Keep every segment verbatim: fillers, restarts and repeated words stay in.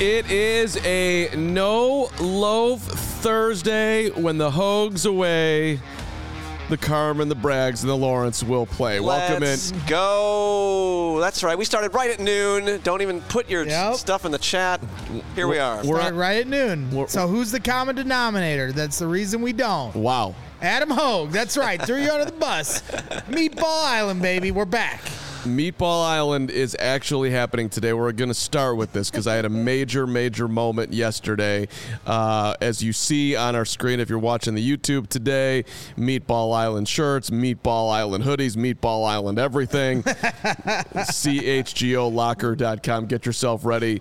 It is a no-loaf Thursday. When the Hogs away, the Carmen, the Braggs, and the Lawrence will play. Welcome Let's in. go. That's right. We started right at noon. Don't even put your Yep. stuff in the chat. Here we are. We're Start right at noon. we're- So who's the common denominator? That's the reason we don't. Wow. Adam Hogue. That's right. Threw you under the bus. Meatball Island, baby. We're back. Meatball Island is actually happening today. We're going to start with this because I had a major, major moment yesterday. Uh, as you see on our screen, if you're watching the YouTube today, Meatball Island shirts, Meatball Island hoodies, Meatball Island everything. C H G O locker dot com. Get yourself ready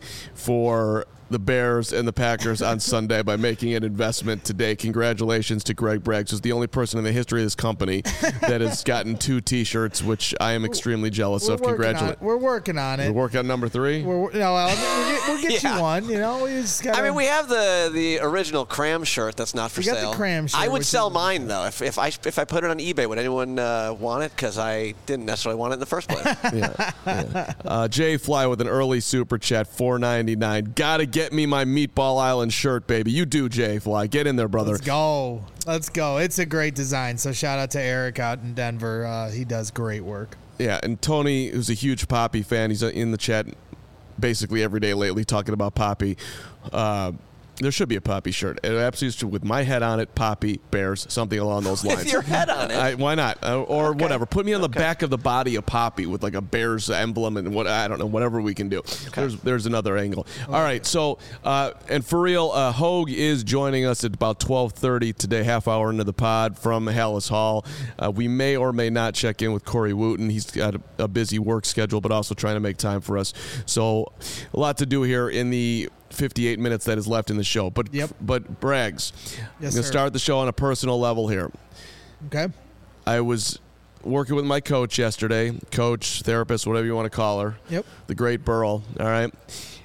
for the Bears and the Packers on Sunday by making an investment today. Congratulations to Greg Braggs, who's the only person in the history of this company that has gotten two T-shirts, which I am extremely jealous We're of. working on Congratulations. it. We're working on it. We're working on number three. We're, no, well, we'll get, we'll get Yeah. you one. You know, we just gotta, I mean, we have the the original Cram shirt that's not for We got the sale. Cram shirt, I would which sell is- mine though. If if I if I put it on eBay, would anyone uh, want it? Because I didn't necessarily want it in the first place. yeah, yeah. Uh, Jay Fly with an early super chat, four ninety-nine. Gotta get me my Meatball Island shirt, baby. You do, Jay Fly. Get in there, brother. Let's go. Let's go. It's a great design. So shout out to Eric out in Denver. Uh, he does great work. Yeah, and Tony, who's a huge Poppy fan, he's in the chat basically every day lately talking about Poppy. Uh, there should be a Poppy shirt. It absolutely should, with my head on it, Poppy, Bears, something along those lines. With your head on it. I, why not? Uh, or Okay. whatever. Put me on the Okay. back of the body of Poppy with like a Bears emblem and what I don't know, whatever we can do. There's there's another angle. All right, so uh, and for real, uh, Hogue is joining us at about twelve thirty today, half hour into the pod from Hallis Hall. Uh, we may or may not check in with Corey Wooten. He's got a, a busy work schedule, but also trying to make time for us. So a lot to do here in the fifty-eight minutes that is left in the show. But Yep. but Braggs, Yes, I'm going sir. to start the show on a personal level here. Okay. I was working with my coach yesterday, coach, therapist, whatever you want to call her. Yep. The great Burl. All right.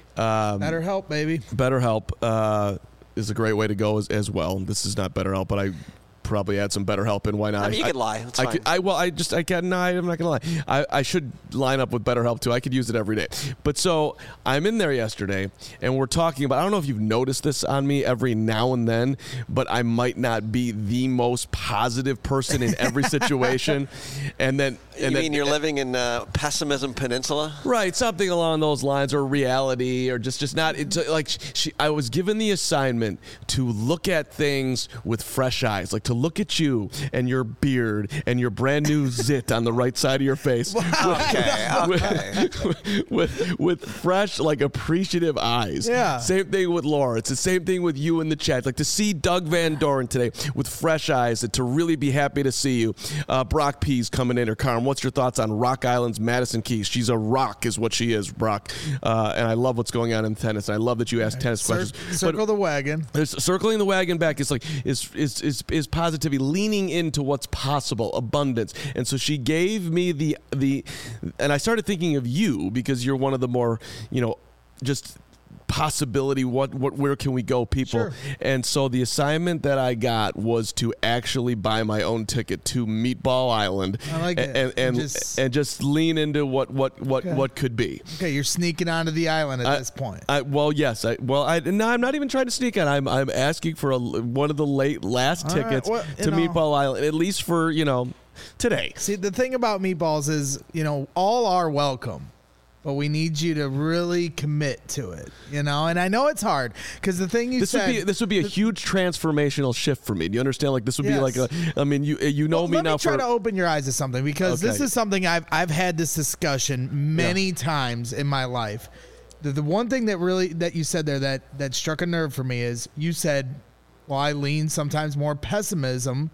Um, Better help, baby. BetterHelp uh, is a great way to go as, as well. This is not BetterHelp, but I probably add some BetterHelp in. Why not? I mean, you could lie. That's I fine. could, I well, I just I can. No, I'm not gonna lie. I, I should line up with BetterHelp too. I could use it every day. But so I'm in there yesterday, and we're talking about. I don't know if you've noticed this on me every now and then, but I might not be the most positive person in every situation. and then, and you then, mean you're living in uh, Pessimism Peninsula? Right, something along those lines, or reality, or just just not. It's like she, I was given the assignment to look at things with fresh eyes, like to look at you and your beard and your brand new zit on the right side of your face. Okay, okay. With, with with fresh, like appreciative eyes. Yeah. Same thing with Laura. It's the same thing with you in the chat. Like to see Doug Van Doren today with fresh eyes, and to really be happy to see you. Uh, Brock P's coming in, or Carm. What's your thoughts on Rock Island's Madison Keys? She's a rock, is what she is, Brock. Uh, and I love what's going on in tennis. And I love that you ask tennis Cir- questions. circle But the wagon. there's circling the wagon back is like is is is is positivity, leaning into what's possible, abundance. And so she gave me the the and I started thinking of you because you're one of the more, you know, just possibility, what what where can we go people. Sure. And so the assignment that I got was to actually buy my own ticket to Meatball Island. I like and, it. and and Just- and just lean into what what what Okay. what could be. Okay, you're sneaking onto the island at I- this point. I, well, yes. I, well, I, no, I'm not even trying to sneak on. I'm I'm asking for a, one of the late last All right, tickets well, you to know. Meatball Island, at least for you know today. See, the thing about meatballs is, you know, all are welcome, but we need you to really commit to it, you know? And I know it's hard because the thing you This said. would be this would be a huge transformational shift for me. Do you understand? Like this would be Yes. like a. I mean, you you know Well, me let now me try for. to open your eyes to something because this Okay. is something I've I've had this discussion many times in my life. The, the one thing that really that you said there that that struck a nerve for me is you said, well, I lean sometimes more pessimism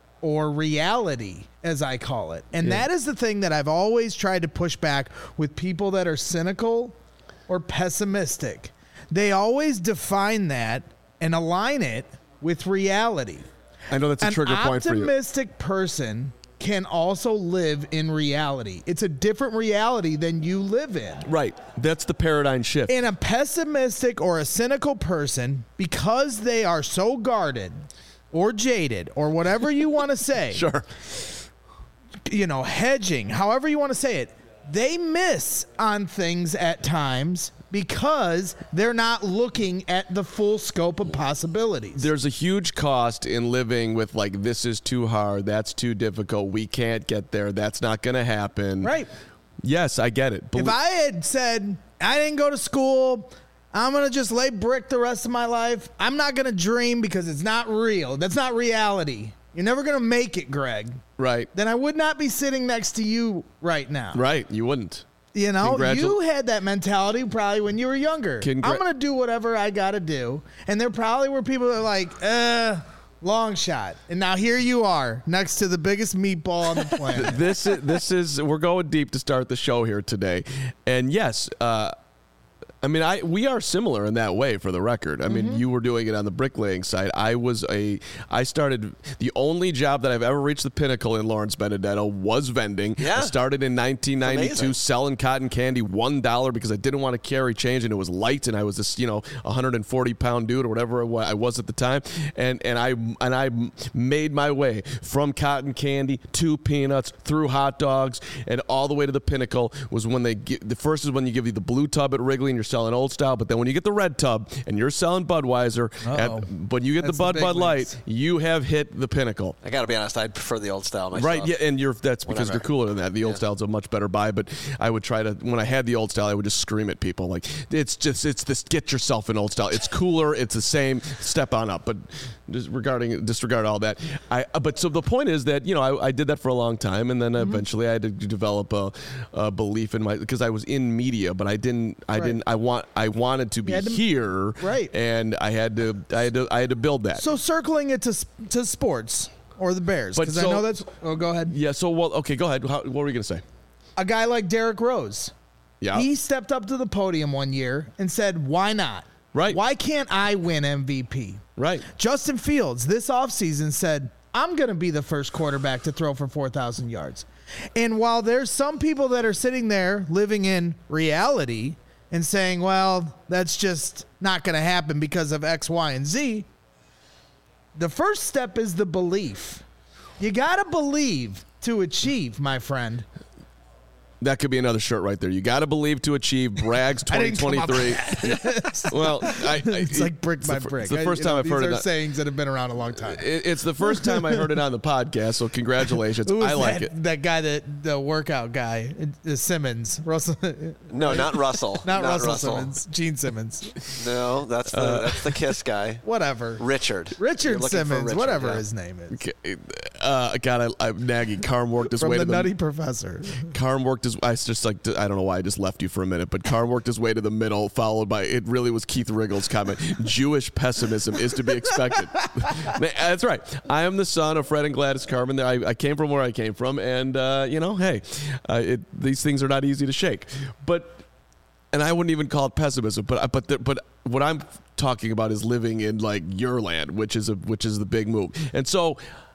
or reality, as I call it. And Yeah. that is the thing that I've always tried to push back with people that are cynical or pessimistic. They always define that and align it with reality. I know that's a An trigger point for you. optimistic person can also live in reality. It's a different reality than you live in. Right. That's the paradigm shift. And a pessimistic or a cynical person, because they are so guarded or jaded or whatever you want to say, Sure. you know, hedging, however you want to say it, they miss on things at times because they're not looking at the full scope of possibilities. There's a huge cost in living with, like, this is too hard, that's too difficult, we can't get there, that's not going to happen. Right. Yes, I get it. Bel- If I had said, I didn't go to school, I'm going to just lay brick the rest of my life, I'm not going to dream because it's not real. That's not reality. You're never going to make it, Greg. Right. Then I would not be sitting next to you right now. Right. You wouldn't. You know, Congratu- you had that mentality probably when you were younger. Congra- I'm going to do whatever I got to do. And there probably were people that were like, uh, long shot. And now here you are next to the biggest meatball on the planet. This is, this is, we're going deep to start the show here today. And yes, uh, I mean, I we are similar in that way, for the record. I mean, Mm-hmm. you were doing it on the bricklaying side. I was a, I started, the only job that I've ever reached the pinnacle in Lawrence Benedetto was vending. Yeah. I started in nineteen ninety-two Amazing. selling cotton candy, one dollar, because I didn't want to carry change, and it was light, and I was this, you know, one hundred forty pound dude or whatever I was at the time. And, and I, and I made my way from cotton candy to peanuts, through hot dogs, and all the way to the pinnacle was when they, get, the first is when you give you the blue tub at Wrigley and you're selling old style, but then when you get the red tub and you're selling Budweiser, Uh-oh. at, but you get That's the Bud the big Bud Light, leagues. you have hit the pinnacle. I got to be honest, I'd prefer the old style myself. Right, yeah, and you're that's because Whatever. they're cooler than that. The old Yeah. style's a much better buy, but I would try to, when I had the old style, I would just scream at people like, it's just, it's this, get yourself an old style. It's cooler, it's the same, step on up. But just regarding, disregard all that. I, but so the point is that, you know, I, I did that for a long time, and then Mm-hmm. eventually I had to develop a, a belief in my, because I was in media, but I didn't, I Right. didn't, I want, I wanted to be had to- here. Right. And I had to, I had to, I had to build that. So circling it to s- to sports or the Bears, But because I so- know that's. Oh, go ahead. yeah, so, well, okay, go ahead. How, what were you going to say? A guy like Derrick Rose. Yeah. He stepped up to the podium one year and said, "Why not? Right. Why can't I win M V P?" Right. Justin Fields this offseason said, "I'm going to be the first quarterback to throw for four thousand yards." And while there's some people that are sitting there living in reality and saying, well, that's just not going to happen because of X, Y, and Z, the first step is the belief. You got to believe to achieve, my friend. That could be another shirt right there. You got to believe to achieve. Bragg's I twenty didn't come up twenty-three. Well, I, I, It's like brick by it's the, brick. It's the I- first you time know, I've heard these it. are on- sayings that have been around a long time. it- It's the first time I heard it on the podcast. So congratulations. Who was I like that, it. that guy, that the workout guy, uh, Simmons, Russell, No, not Russell. not, Russell, Simmons, Gene Simmons, No, that's the Uh, that's the Kiss guy. whatever, Richard. You're Richard looking for Simmons, Richard, whatever yeah. his name is, Okay, Uh, God, I, I'm nagging. Carm worked his from way the to the Nutty Professor. Carm worked his. I just like. I don't know why I just left you for a minute, but Carm worked his way to the middle, followed by it. Really was Keith Riggle's comment. Jewish pessimism is to be expected. That's right. I am the son of Fred and Gladys Carman. I, I came from where I came from, and uh, you know, hey, uh, it, these things are not easy to shake. But, and I wouldn't even call it pessimism. But but the, but what I'm talking about is living in like your land, which is a which is the big move, and so.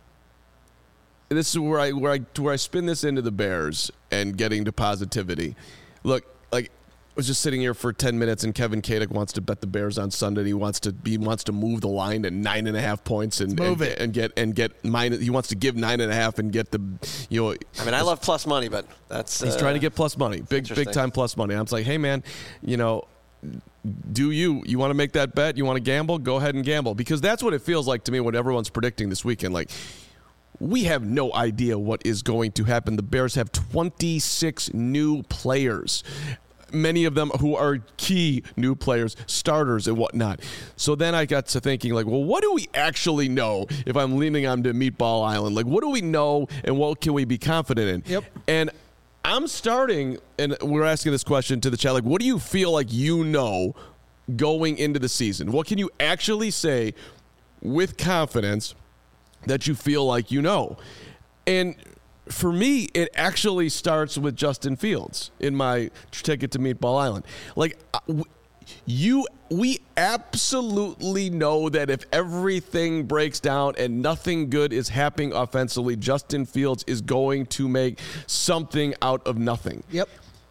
This is where I where I where I spin this into the Bears and getting to positivity. Look, like I was just sitting here for ten minutes, and Kevin Kadick wants to bet the Bears on Sunday. He wants to he wants to move the line to nine and a half points and Move and, it. and get and get minus. He wants to give nine and a half and get the you know. I mean, I love plus money, but that's He's uh, trying to get plus money, big interesting. big time plus money. I'm just like, hey man, you know. Do you you want to make that bet? You want to gamble? Go ahead and gamble, because that's what it feels like to me when everyone's predicting this weekend. Like, we have no idea what is going to happen. The Bears have twenty-six new players, many of them who are key new players, starters and whatnot. So then I got to thinking, like, well, what do we actually know if I'm leaning on to Meatball Island? Like, what do we know and what can we be confident in? Yep. And I'm starting, and we're asking this question to the chat, like, what do you feel like you know going into the season? What can you actually say with confidence that you feel like you know? And for me, it actually starts with Justin Fields in my ticket to Meatball Island. Like, you, we absolutely know that if everything breaks down and nothing good is happening offensively, Justin Fields is going to make something out of nothing. Yep.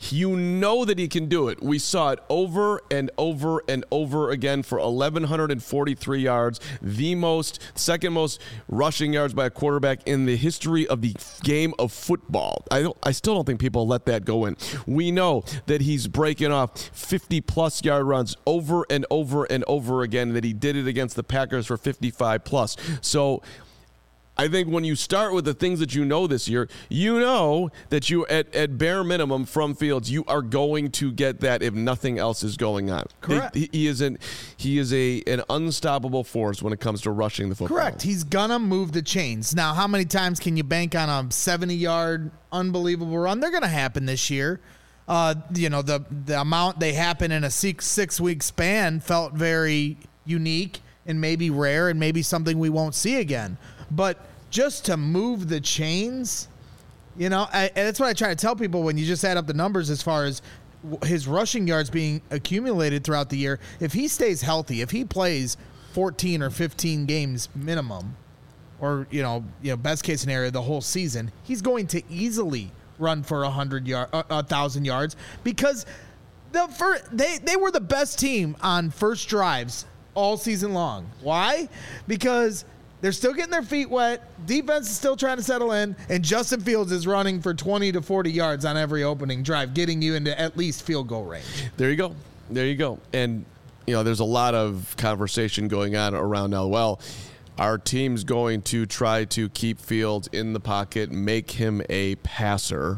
You know that he can do it. We saw it over and over and over again for eleven forty-three yards, the most, second most rushing yards by a quarterback in the history of the game of football. I don't, I still don't think people let that go in. We know that he's breaking off fifty-plus yard runs over and over and over again, that he did it against the Packers for fifty-five plus. So I think when you start with the things that you know this year, you know that you, at, at bare minimum from Fields, you are going to get that if nothing else is going on. Correct. He, he is an he is a an unstoppable force when it comes to rushing the football. Correct. He's gonna move the chains. Now, how many times can you bank on a seventy-yard unbelievable run? They're gonna happen this year. Uh, you know, the the amount they happen in a six six week span felt very unique and maybe rare and maybe something we won't see again. But just to move the chains, you know, I, and that's what I try to tell people when you just add up the numbers as far as his rushing yards being accumulated throughout the year. If he stays healthy, if he plays fourteen or fifteen games minimum, or, you know, you know, best case scenario, the whole season, he's going to easily run for a hundred yard, a uh, thousand yards, because the first, they they were the best team on first drives all season long. Why? Because they're still getting their feet wet. Defense is still trying to settle in, and Justin Fields is running for twenty to forty yards on every opening drive, getting you into at least field goal range. There you go. There you go. And, you know, there's a lot of conversation going on around now. Well, our team's going to try to keep Fields in the pocket, make him a passer.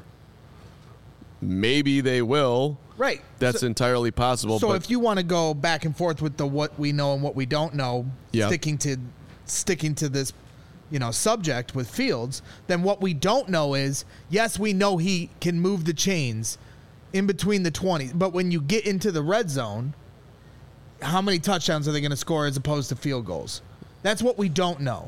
Maybe they will. Right. That's so, entirely possible. So but if you want to go back and forth with the what we know and what we don't know, yeah. sticking to sticking to this, you know, subject with Fields, then what we don't know is, yes, we know he can move the chains in between the twenties, but when you get into the red zone, how many touchdowns are they going to score as opposed to field goals? That's what we don't know.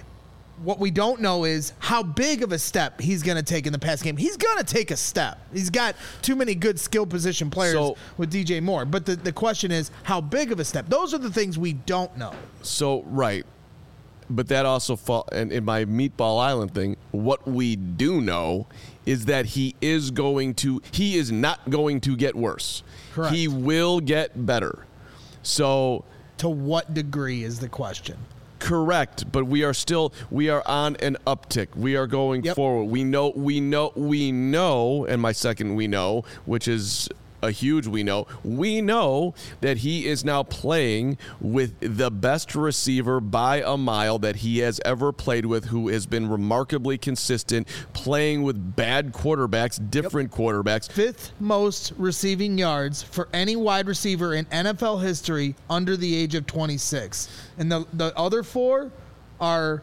What we don't know is how big of a step he's going to take in the pass game. He's going to take a step. He's got too many good skill position players so, with D J Moore. But the, the question is, how big of a step? Those are the things we don't know. So, right. But that also, fall, and in my Meatball Island thing, what we do know is that he is going to, he is not going to get worse. Correct. He will get better. So, to what degree is the question? Correct, but we are still we are on an uptick. We are going yep. forward. We know we know we know, and my second we know, which is a huge we know. We know that he is now playing with the best receiver by a mile that he has ever played with, who has been remarkably consistent, playing with bad quarterbacks, different yep. quarterbacks. Fifth most receiving yards for any wide receiver in N F L history under the age of twenty-six. And the, the other four are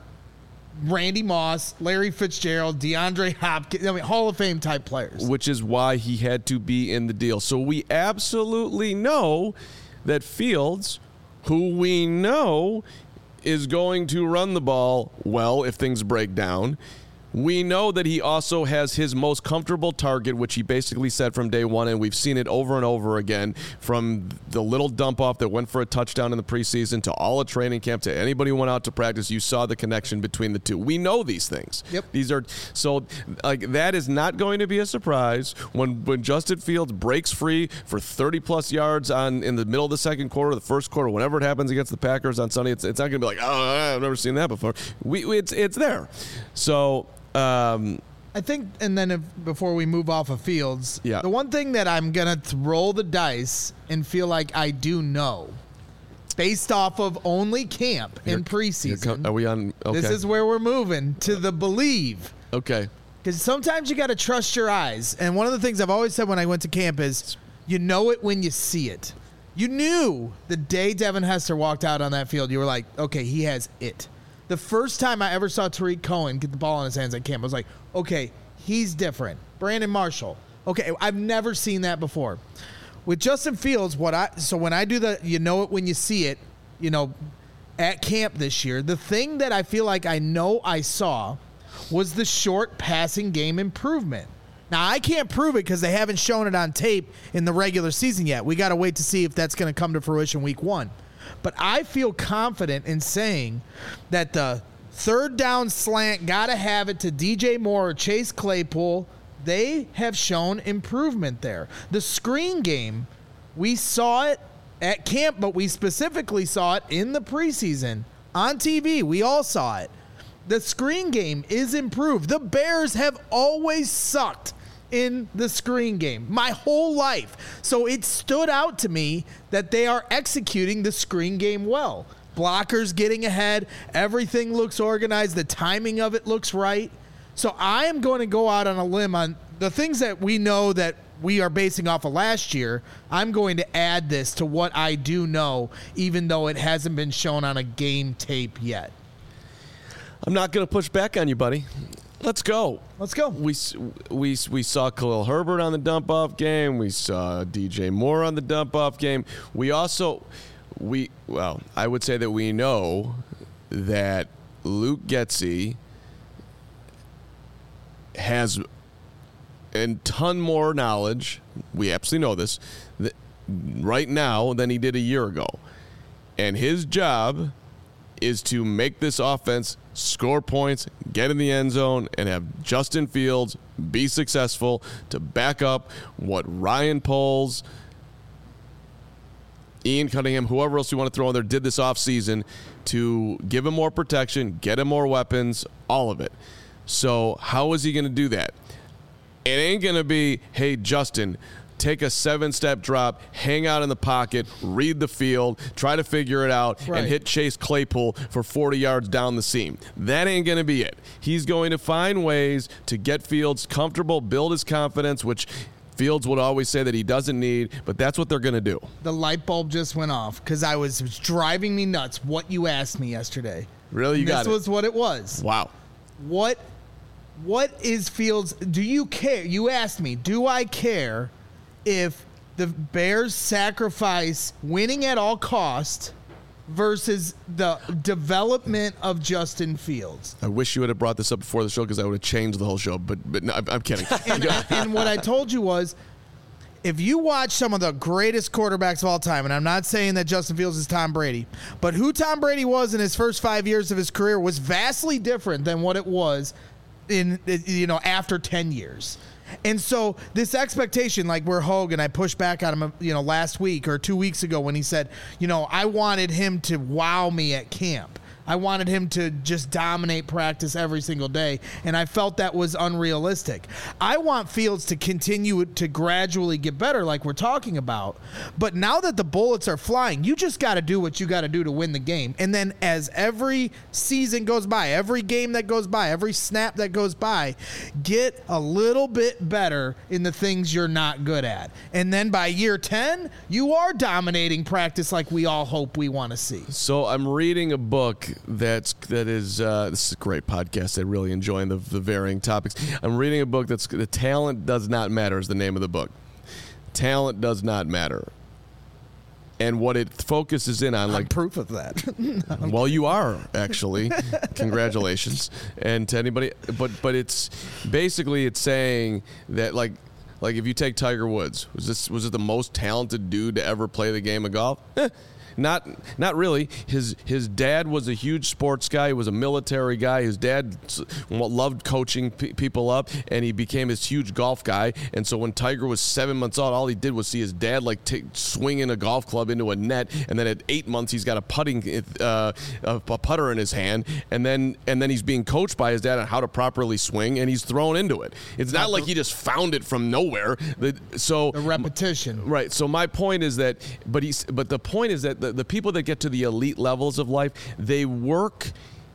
Randy Moss, Larry Fitzgerald, DeAndre Hopkins, I mean, Hall of Fame type players. Which is why he had to be in the deal. So we absolutely know that Fields, who we know is going to run the ball well if things break down, we know that he also has his most comfortable target, which he basically said from day one, and we've seen it over and over again, from the little dump-off that went for a touchdown in the preseason to all of training camp to anybody who went out to practice. You saw the connection between the two. We know these things. Yep. These are so like that is not going to be a surprise when when Justin Fields breaks free for thirty-plus yards on in the middle of the second quarter, the first quarter, whenever it happens against the Packers on Sunday. It's, it's not going to be like, oh, I've never seen that before. We, we it's it's there. So. Um, I think, and then if, before we move off of Fields, yeah. the one thing that I'm going to roll the dice and feel like I do know, based off of only camp you're, in preseason. Are we on? Okay. This is where we're moving to the believe. Okay. Because sometimes you got to trust your eyes. And one of the things I've always said when I went to camp is, you know it when you see it. You knew the day Devin Hester walked out on that field, you were like, okay, he has it. The first time I ever saw Tariq Cohen get the ball in his hands at camp, I was like, okay, he's different. Brandon Marshall. Okay, I've never seen that before. With Justin Fields, what I so when I do the you know it when you see it, you know, at camp this year, the thing that I feel like I know I saw was the short passing game improvement. Now, I can't prove it because they haven't shown it on tape in the regular season yet. We got to wait to see if that's going to come to fruition week one. But I feel confident in saying that the third down slant, got to have it to D J Moore or Chase Claypool, they have shown improvement there. The screen game, we saw it at camp, but we specifically saw it in the preseason on T V. We all saw it. The screen game is improved. The Bears have always sucked in the screen game my whole life. So it stood out to me that they are executing the screen game well. Blockers getting ahead. Everything looks organized. The timing of it looks right. So I am going to go out on a limb on the things that we know that we are basing off of last year. I'm going to add this to what I do know, even though it hasn't been shown on a game tape yet. I'm not going to push back on you, buddy. Let's go. Let's go. We we we saw Khalil Herbert on the dump-off game. We saw D J Moore on the dump-off game. We also, we well, I would say that we know that Luke Getsy has a ton more knowledge. We absolutely know this that right now than he did a year ago. And his job is to make this offense score points, get in the end zone, and have Justin Fields be successful to back up what Ryan Poles, Ian Cunningham, whoever else you want to throw in there, did this offseason to give him more protection, get him more weapons, all of it. So how is he going to do that? It ain't going to be, hey, Justin, take a seven-step drop, hang out in the pocket, read the field, try to figure it out, right, and hit Chase Claypool for forty yards down the seam. That ain't going to be it. He's going to find ways to get Fields comfortable, build his confidence, which Fields would always say that he doesn't need, but that's what they're going to do. The light bulb just went off because I was, it was driving me nuts what you asked me yesterday. Really? You and got this it. was what it was. Wow. What, what is Fields? Do you care? You asked me, do I care if the Bears sacrifice winning at all cost versus the development of Justin Fields? I wish you would have brought this up before the show because I would have changed the whole show, but but no, I'm, I'm kidding. And, and what I told you was, if you watch some of the greatest quarterbacks of all time, and I'm not saying that Justin Fields is Tom Brady, but who Tom Brady was in his first five years of his career was vastly different than what it was in, you know, after ten years. And so this expectation, like where Hogan, I pushed back on him, you know, last week or two weeks ago when he said, you know, I wanted him to wow me at camp. I wanted him to just dominate practice every single day, and I felt that was unrealistic. I want Fields to continue to gradually get better like we're talking about, but now that the bullets are flying, you just got to do what you got to do to win the game. And then as every season goes by, every game that goes by, every snap that goes by, get a little bit better in the things you're not good at. And then by year ten, you are dominating practice like we all hope we want to see. So I'm reading a book that's that is uh, this is a great podcast. I really enjoy the the varying topics. I'm reading a book that's The Talent Does Not Matter is the name of the book. Talent does not matter. And what it focuses in on, like I'm proof of that. well, you are actually. Congratulations. And to anybody, but but it's basically it's saying that like like if you take Tiger Woods, was this was it the most talented dude to ever play the game of golf? Eh. Not not really. His his dad was a huge sports guy. He was a military guy. His dad loved coaching p- people up, and he became this huge golf guy. And so when Tiger was seven months old, all he did was see his dad like t- swinging a golf club into a net. And then at eight months, he's got a putting uh, a, a putter in his hand. And then and then he's being coached by his dad on how to properly swing, and he's thrown into it. It's not like he just found it from nowhere. The, so the repetition, right? So my point is that, but he's but the point is that. The, the people that get to the elite levels of life, they work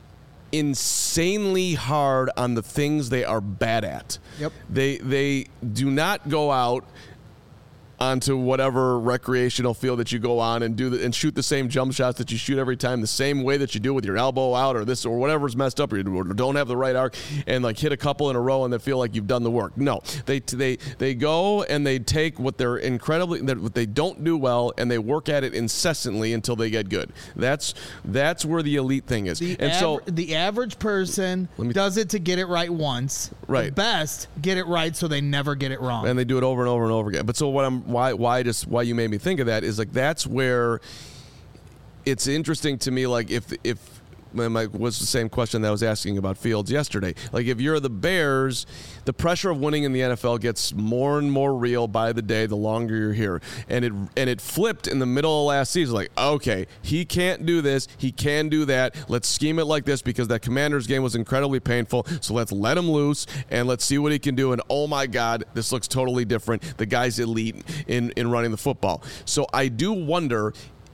insanely hard on the things they are bad at. Yep. They they do not go out onto whatever recreational field that you go on and do the, and shoot the same jump shots that you shoot every time the same way that you do with your elbow out or this or whatever's messed up or you don't have the right arc and like hit a couple in a row and then feel like you've done the work. No, they they they go and they take what they're incredibly what they don't do well and they work at it incessantly until they get good. That's that's where the elite thing is. The and aver- so the average person me, does it to get it right once. Right. The best get it right so they never get it wrong. And they do it over and over and over again. But so what I'm why why just why you made me think of that is like that's where it's interesting to me, like if if was the same question that I was asking about Fields yesterday. Like, if you're the Bears, the pressure of winning in the N F L gets more and more real by the day, the longer you're here. And it and it flipped in the middle of last season. Like, okay, he can't do this, he can do that. Let's scheme it like this because that Commanders game was incredibly painful. So let's let him loose and let's see what he can do. And oh my God, this looks totally different. The guy's elite in, in running the football. So I do wonder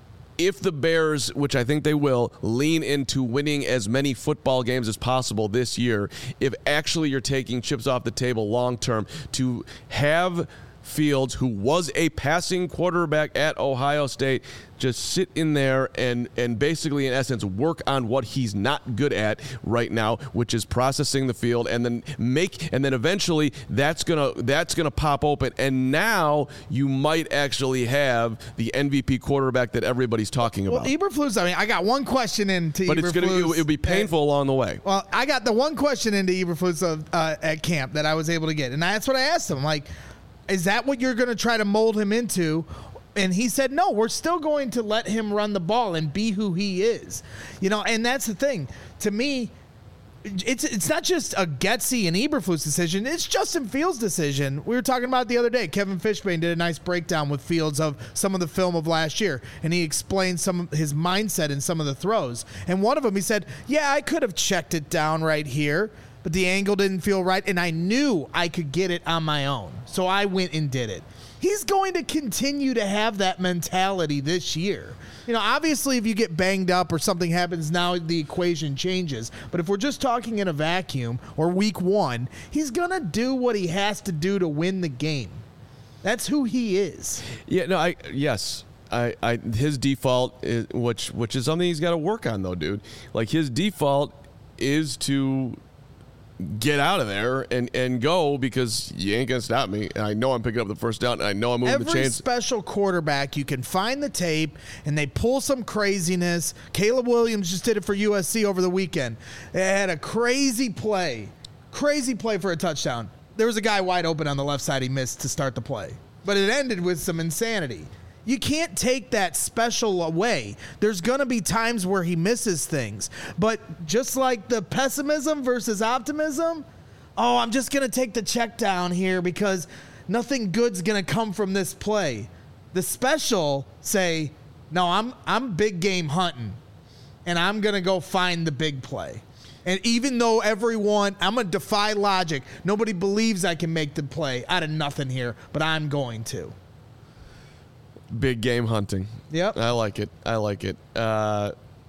if the Bears, which I think they will, lean into winning as many football games as possible this year, if actually you're taking chips off the table long term to have Fields, who was a passing quarterback at Ohio State, just sit in there and and basically, in essence, work on what he's not good at right now, which is processing the field, and then make and then eventually that's gonna that's gonna pop open, and now you might actually have the M V P quarterback that everybody's talking about. Well, Eberflus, I mean, I got one question into but Eberflus, it's gonna it, it'll be painful and, along the way. Well, I got the one question into Eberflus of, uh, at camp that I was able to get, and that's what I asked him, like, is that what you're going to try to mold him into? And he said, no, we're still going to let him run the ball and be who he is. You know, and that's the thing. To me, it's it's not just a Getsy and Eberflus decision. It's Justin Fields' decision. We were talking about it the other day. Kevin Fishbane did a nice breakdown with Fields of some of the film of last year, and he explained some of his mindset in some of the throws. And one of them, he said, yeah, I could have checked it down right here, but the angle didn't feel right, and I knew I could get it on my own. So I went and did it. He's going to continue to have that mentality this year. You know, obviously, if you get banged up or something happens, now the equation changes. But if we're just talking in a vacuum or week one, he's going to do what he has to do to win the game. That's who he is. Yeah, no, I yes. I, I his default, is, which which is something he's got to work on, though, dude. Like, his default is to get out of there and, and go, because you ain't going to stop me. And I know I'm picking up the first down, and I know I'm moving Every the chains. Every special quarterback, you can find the tape, and they pull some craziness. Caleb Williams just did it for U S C over the weekend. They had a crazy play. Crazy play for a touchdown. There was a guy wide open on the left side he missed to start the play. But it ended with some insanity. You can't take that special away. There's going to be times where he misses things. But just like the pessimism versus optimism, oh, I'm just going to take the check down here because nothing good's going to come from this play. The special say, no, I'm I'm big game hunting, and I'm going to go find the big play. And even though everyone, I'm going to defy logic. Nobody believes I can make the play out of nothing here, but I'm going to. Big game hunting. Yep. I like it. I like it. Uh,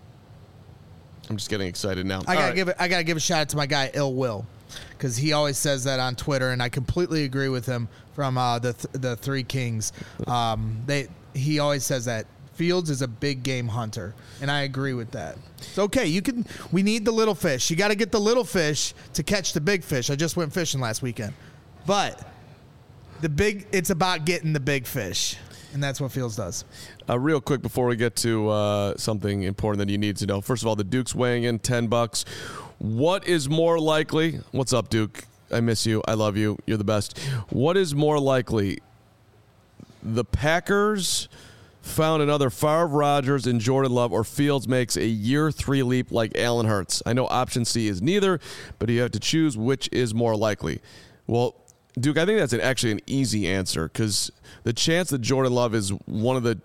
I'm just getting excited now. I gotta right. give it. I gotta give a shout out to my guy Ill Will, because he always says that on Twitter, and I completely agree with him. From uh, the th- the Three Kings, um, they he always says that Fields is a big game hunter, and I agree with that. It's okay. You can. We need the little fish. You got to get the little fish to catch the big fish. I just went fishing last weekend, but the big. It's about getting the big fish. And that's what Fields does. Uh, real quick before we get to uh, something important that you need to know. First of all, the Duke's weighing in ten bucks. What is more likely? What's up, Duke? I miss you. I love you. You're the best. What is more likely? The Packers found another Favre, Rodgers, and Jordan Love, or Fields makes a year three leap like Allen Hurts? I know option C is neither, but you have to choose which is more likely. Well, Duke, I think that's an, actually an easy answer, because the chance that Jordan Love is one of the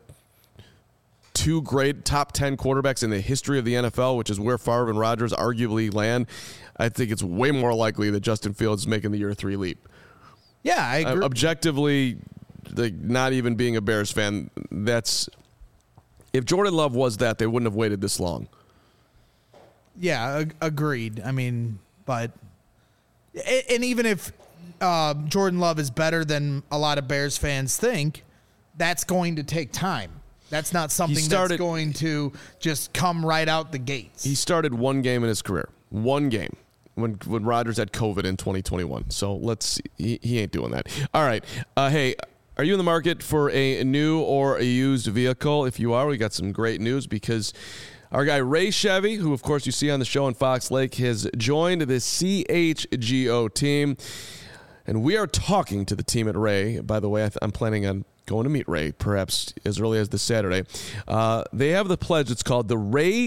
two great top ten quarterbacks in the history of the N F L, which is where Favre and Rodgers arguably land, I think it's way more likely that Justin Fields is making the year three leap. Yeah, I agree. Uh, objectively, like, not even being a Bears fan, that's if Jordan Love was that, they wouldn't have waited this long. Yeah, ag- agreed. I mean, but and even if Uh, Jordan Love is better than a lot of Bears fans think, that's going to take time. That's not something started, that's going to just come right out the gates. He started one game in his career. One game. When when Rodgers had COVID in twenty twenty-one. So let's see. He, he ain't doing that. All right. Uh, hey, are you in the market for a new or a used vehicle? If you are, we got some great news, because our guy Ray Chevy, who of course you see on the show in Fox Lake, has joined the C H G O team. And we are talking to the team at Ray. By the way, I th- I'm planning on going to meet Ray, perhaps as early as this Saturday. Uh, they have the pledge. It's called the Ray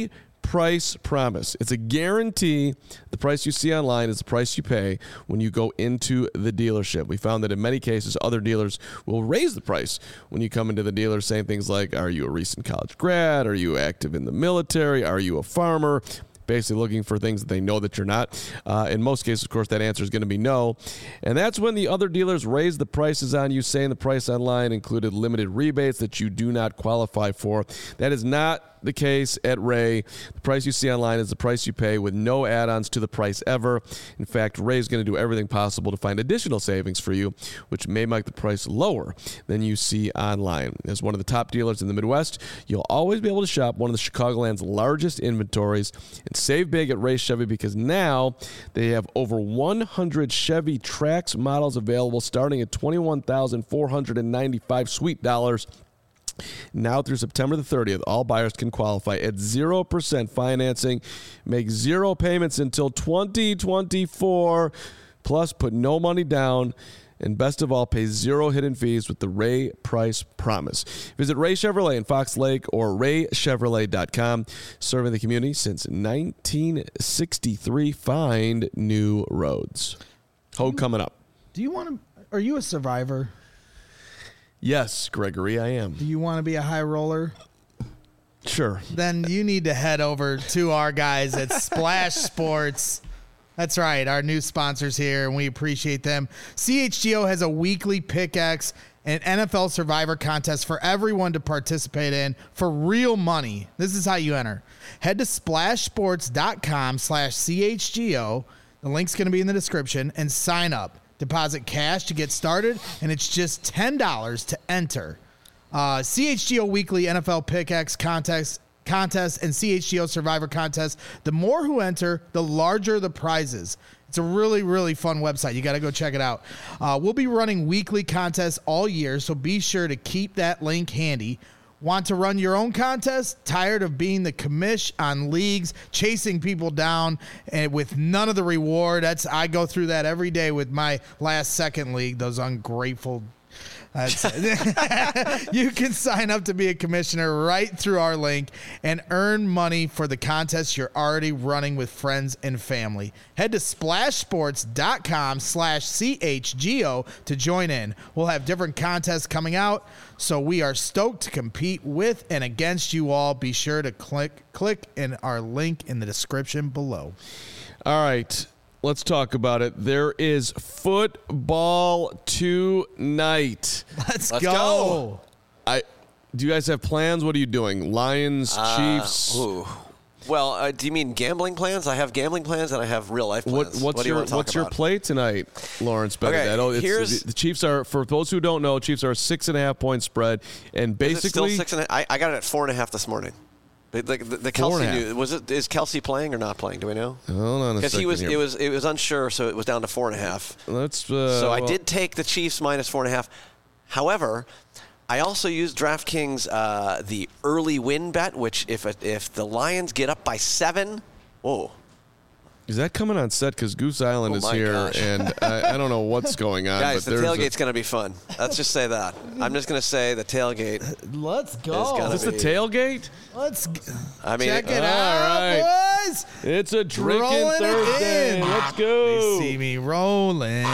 price promise. It's a guarantee the price you see online is the price you pay when you go into the dealership. We found that in many cases, other dealers will raise the price when you come into the dealer, saying things like, are you a recent college grad? Are you active in the military? Are you a farmer? Basically looking for things that they know that you're not. Uh, in most cases, of course, that answer is going to be no. And that's when the other dealers raise the prices on you, saying the price online included limited rebates that you do not qualify for. That is not the case at Ray. The price you see online is the price you pay with no add-ons to the price ever. In fact, Ray is going to do everything possible to find additional savings for you, which may make the price lower than you see online. As one of the top dealers in the Midwest, you'll always be able to shop one of the Chicagoland's largest inventories and save big at Ray Chevy, because now they have over one hundred Chevy Trax models available starting at twenty-one thousand four hundred ninety-five sweet dollars. Now through September the thirtieth, all buyers can qualify at zero percent financing, make zero payments until twenty twenty-four, plus put no money down, and best of all, pay zero hidden fees with the Ray Price Promise. Visit Ray Chevrolet in Fox Lake or ray chevrolet dot com. Serving the community since nineteen sixty-three. Find new roads. Hogue coming up. Do you want to? Are you a survivor? Yes, Gregory, I am. Do you want to be a high roller? Sure. Then you need to head over to our guys at Splash Sports. That's right, our new sponsors here, and we appreciate them. C H G O has a weekly pickaxe and N F L Survivor contest for everyone to participate in for real money. This is how you enter. Head to splash sports dot com slash C H G O. The link's going to be in the description, and sign up. Deposit cash to get started, and it's just ten dollars to enter. Uh, C H G O Weekly N F L Pickaxe Contest contest and C H G O Survivor Contest. The more who enter, the larger the prizes. It's a really, really fun website. You got to go check it out. Uh, we'll be running weekly contests all year, so be sure to keep that link handy. Want to run your own contest? Tired of being the commish on leagues, chasing people down and with none of the reward? That's I go through that every day with my last second league, those ungrateful. That's you can sign up to be a commissioner right through our link and earn money for the contest you're already running with friends and family. Head to splash sports dot com slash C H G O to join in. We'll have different contests coming out, so we are stoked to compete with and against you all. Be sure to click click in our link in the description below. All right. Let's talk about it. There is football tonight. Let's, Let's go. go. I do you guys have plans? What are you doing? Lions, Uh, Chiefs? Ooh. Well, uh, do you mean gambling plans? I have gambling plans and I have real life What, plans. what's what do you your want to talk what's your about? play tonight, Lawrence Bennett? Okay, I know it's, here's- the, the Chiefs are, for those who don't know, Chiefs are a six and a half point spread, and Is it still basically six and a, I, I got it at four and a half this morning. The, the, the, the Four Kelsey and a half. news, was it? Is Kelsey playing or not playing? Do we know? hold on a Because second he was, here. it was, it was unsure, so it was down to four and a half. Let's. Uh, So I well, did take the Chiefs minus four and a half. However, I also used DraftKings uh, the early win bet, which if if the Lions get up by seven, whoa. Is that coming on set? Because Goose Island Oh is my here, gosh. and I, I don't know what's going on. Guys, but the there's a- tailgate's going to be fun. Let's just say that. I'm just going to say the tailgate. Let's It's go. gonna Is this the be- tailgate? Let's g- I mean, check it all out, right. boys. It's a drinking Rolling it Thursday. in. Let's go. They see me rolling.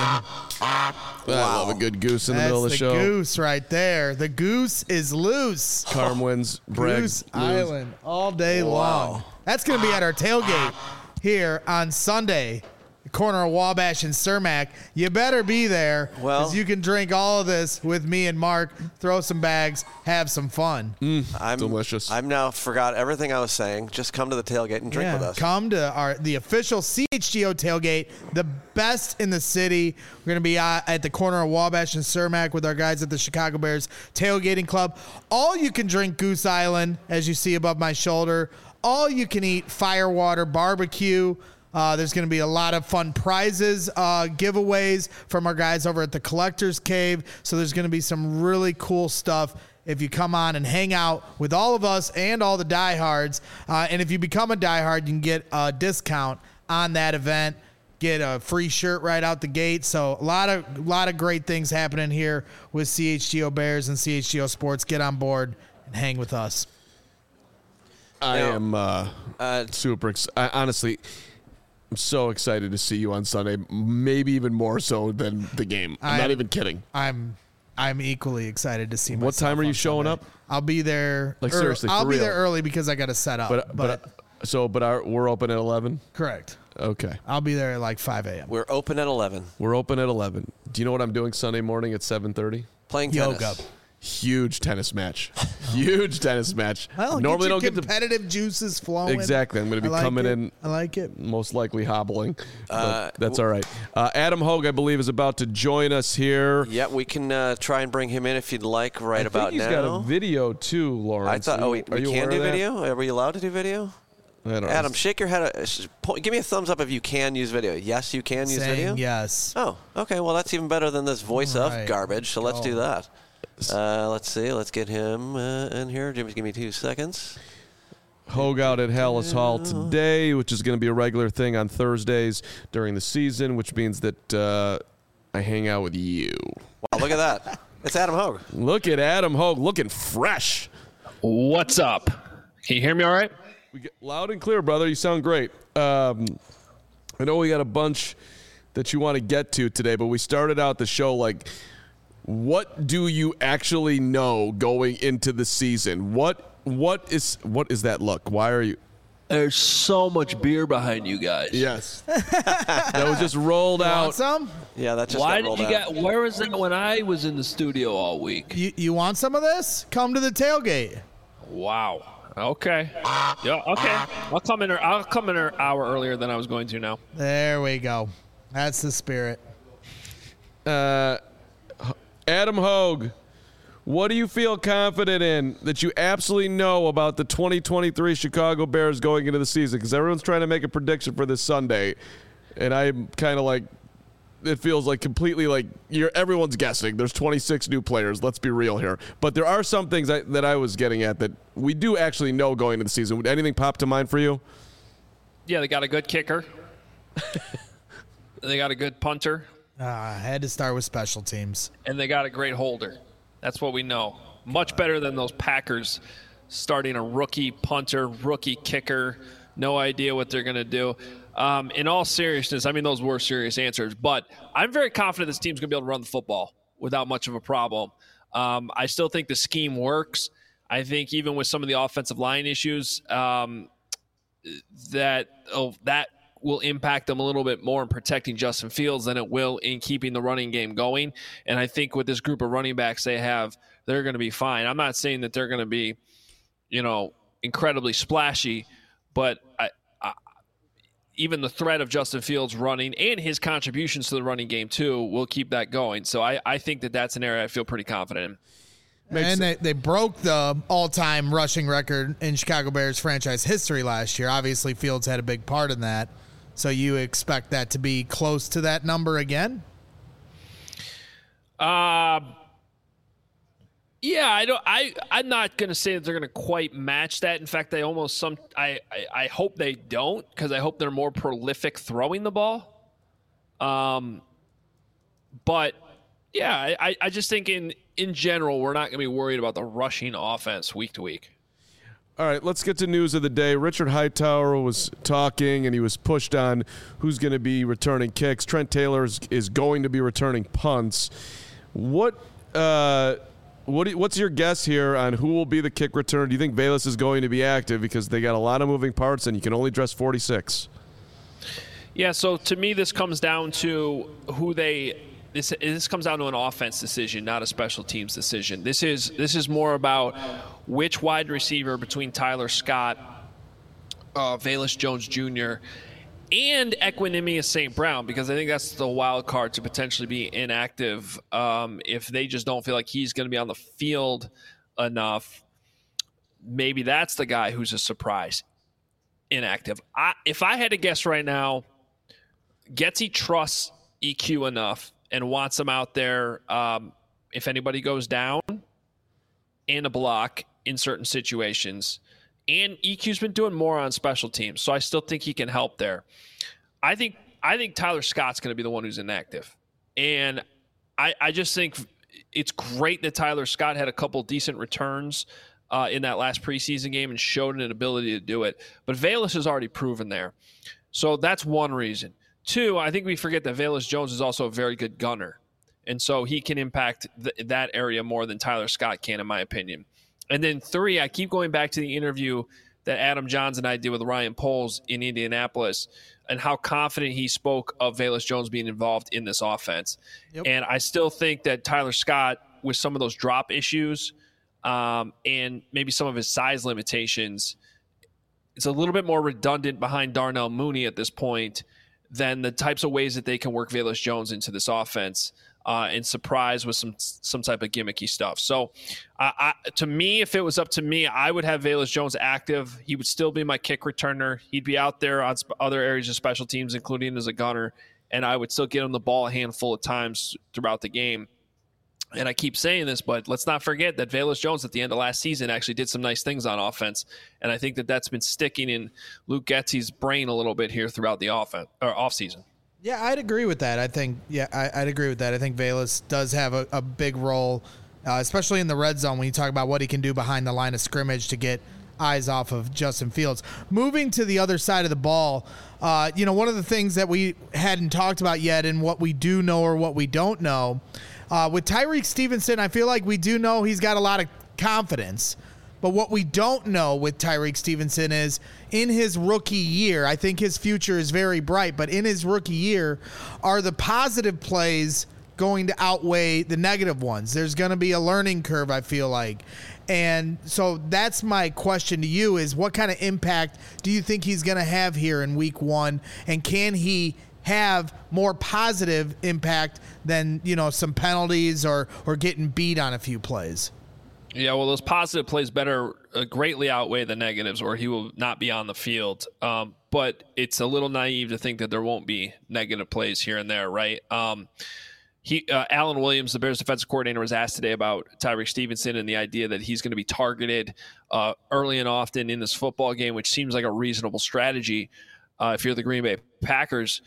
I love a good goose in the That's middle of the, the show. goose right there. The goose is loose. Carm wins. Bragg Goose lose. Island all day long. That's going to be at our tailgate here on Sunday, the corner of Wabash and Cermak. You better be there because Well- you can drink all of this with me and Mark, throw some bags, have some fun. I'm delicious. I'm now forgot everything I was saying. Just come to the tailgate and drink with us. Come to our the official C H G O tailgate, the best in the city. We're going to be uh, at the corner of Wabash and Cermak with our guys at the Chicago Bears Tailgating Club. All you can drink Goose Island, as you see above my shoulder. All you can eat Firewater barbecue. Uh, there's going to be a lot of fun prizes, uh, giveaways from our guys over at the Collector's Cave. So there's going to be some really cool stuff if you come on and hang out with all of us and all the diehards. Uh, and if you become a diehard, you can get a discount on that event, get a free shirt right out the gate. So a lot of a lot of great things happening here with C H G O Bears and C H G O Sports. Get on board and hang with us. I Now, am uh, uh, super ex- I, honestly, I'm so excited to see you on Sunday, maybe even more so than the game. I'm, I'm- not even kidding. I'm I'm equally excited to see. What myself time are you on showing Sunday. up? I'll be there. Like, ear- seriously, I'll for be real. there early because I got to set up. But But, but so but our, we're open at eleven. correct. Okay, I'll be there at like five a.m. We're open at eleven. we're open at eleven. Do you know what I'm doing Sunday morning at seven thirty? Playing tennis. Yoga. Huge tennis match. Huge tennis match. Well, Normally get your don't get to competitive juices flowing. exactly. I'm going to be I like coming it. in. I like it. Most likely hobbling. But Uh, that's all right. Uh, Adam Hogue, I believe, is about to join us here. Yeah, we can uh, try and bring him in if you'd like right I think about he's now. got a video too, Lawrence. I thought, Are oh, you- we, are we you can aware do of that? video? Are we allowed to do video? I don't know. Adam, shake your head. uh, sh- po- Give me a thumbs up if you can use video. Yes, you can use Saying video? yes. Oh, okay. Well, that's even better than this voice All of right. garbage, so let's do Go. that. Uh, let's see. Let's get him uh, in here. Jimmy, give me two seconds. Hogue out at Hallis Hall today, which is going to be a regular thing on Thursdays during the season, which means that uh, I hang out with you. Wow, look at that. It's Adam Hogue. Look at Adam Hogue looking fresh. What's up? Can you hear me all right? We get loud and clear, brother. You sound great. Um, I know we got a bunch that you want to get to today, but we started out the show like, what do you actually know going into the season? What what is what is that look? Why are you? There's so much beer behind you guys. Yes, that was just rolled Want out. some? Yeah, that just Why got rolled did you out. get? Where was that when I was in the studio all week? You you want some of this? Come to the tailgate. Wow. Okay. Yeah. Okay. I'll come in. I'll come in an hour earlier than I was going to now. There we go. That's the spirit. Uh, Adam Hogue, what do you feel confident in that you absolutely know about the twenty twenty-three Chicago Bears going into the season? Because everyone's trying to make a prediction for this Sunday, and I'm kind of like, it feels like completely like you're everyone's guessing. There's twenty-six new players. Let's be real here. But there are some things I, that I was getting at that we do actually know going into the season. Would anything pop to mind for you? Yeah, they got a good kicker. They got a good punter, Uh, I had to start with special teams. and they got a great holder. That's what we know. Much better than those Packers starting a rookie punter, rookie kicker. No idea what they're going to do. Um, in all seriousness, I mean, those were serious answers, but I'm very confident this team's going to be able to run the football without much of a problem. Um, I still think the scheme works. I think even with some of the offensive line issues, um, that oh, that will impact them a little bit more in protecting Justin Fields than it will in keeping the running game going. And I think with this group of running backs they have, they're going to be fine. I'm not saying that they're going to be, you know, incredibly splashy, but I, I, even the threat of Justin Fields running and his contributions to the running game too will keep that going. So I, I think that that's an area I feel pretty confident in. Makes and they, they broke the all-time rushing record in Chicago Bears franchise history last year. Obviously, Fields had a big part in that. So you expect that to be close to that number again? Uh, yeah, I don't. I I'm not gonna say that they're gonna quite match that. In fact, I almost some. I I, I hope they don't because I hope they're more prolific throwing the ball. Um, but yeah, I I just think in in general we're not gonna be worried about the rushing offense week to week. All right, let's get to news of the day. Richard Hightower was talking, and he was pushed on who's going to be returning kicks. Trent Taylor is, is going to be returning punts. What uh, what do you- what's your guess here on who will be the kick returner? Do you think Bayless is going to be active because they got a lot of moving parts, and you can only dress forty-six? Yeah, so to me, this comes down to who they. This this comes down to an offense decision, not a special teams decision. This is this is more about which wide receiver between Tyler Scott, uh, Velus Jones Junior, and Equinemius Saint Brown, because I think that's the wild card to potentially be inactive um, if they just don't feel like he's going to be on the field enough. Maybe that's the guy who's a surprise inactive. I, if I had to guess right now, Getsy trusts E Q enough and wants him out there um, if anybody goes down and a block in certain situations. And E Q's been doing more on special teams, so I still think he can help there. I think I think Tyler Scott's going to be the one who's inactive. And I, I just think it's great that Tyler Scott had a couple decent returns uh, in that last preseason game and showed an ability to do it. But Velus has already proven there. So that's one reason. Two, I think we forget that Velus Jones is also a very good gunner. And so he can impact th- that area more than Tyler Scott can, in my opinion. And then three, I keep going back to the interview that Adam Johns and I did with Ryan Poles in Indianapolis and how confident he spoke of Velus Jones being involved in this offense. Yep. And I still think that Tyler Scott, with some of those drop issues um, and maybe some of his size limitations, it's a little bit more redundant behind Darnell Mooney at this point than the types of ways that they can work Velus Jones into this offense uh, and surprise with some some type of gimmicky stuff. So uh, I, to me, if it was up to me, I would have Velus Jones active. He would still be my kick returner. He'd be out there on sp- other areas of special teams, including as a gunner, and I would still get him the ball a handful of times throughout the game. And I keep saying this, but let's not forget that Velus Jones at the end of last season actually did some nice things on offense. And I think that that's been sticking in Luke Getsy's brain a little bit here throughout the offense or offseason. Yeah, I'd agree with that. I think, yeah, I, I'd agree with that. I think Velus does have a, a big role, uh, especially in the red zone when you talk about what he can do behind the line of scrimmage to get eyes off of Justin Fields. Moving to the other side of the ball, uh, you know, one of the things that we hadn't talked about yet and what we do know or what we don't know, Uh, with Tyrique Stevenson, I feel like we do know he's got a lot of confidence. But what we don't know with Tyrique Stevenson is in his rookie year, I think his future is very bright, but in his rookie year, are the positive plays going to outweigh the negative ones? There's going to be a learning curve, I feel like. And so that's my question to you is what kind of impact do you think he's going to have here in week one? And can he have more positive impact than, you know, some penalties or or getting beat on a few plays? Yeah, well, those positive plays better uh, greatly outweigh the negatives, or he will not be on the field. Um, but it's a little naive to think that there won't be negative plays here and there, right? Um, he, uh, Alan Williams, the Bears defensive coordinator, was asked today about Tyrique Stevenson and the idea that he's going to be targeted uh, early and often in this football game, which seems like a reasonable strategy uh, if you're the Green Bay Packers.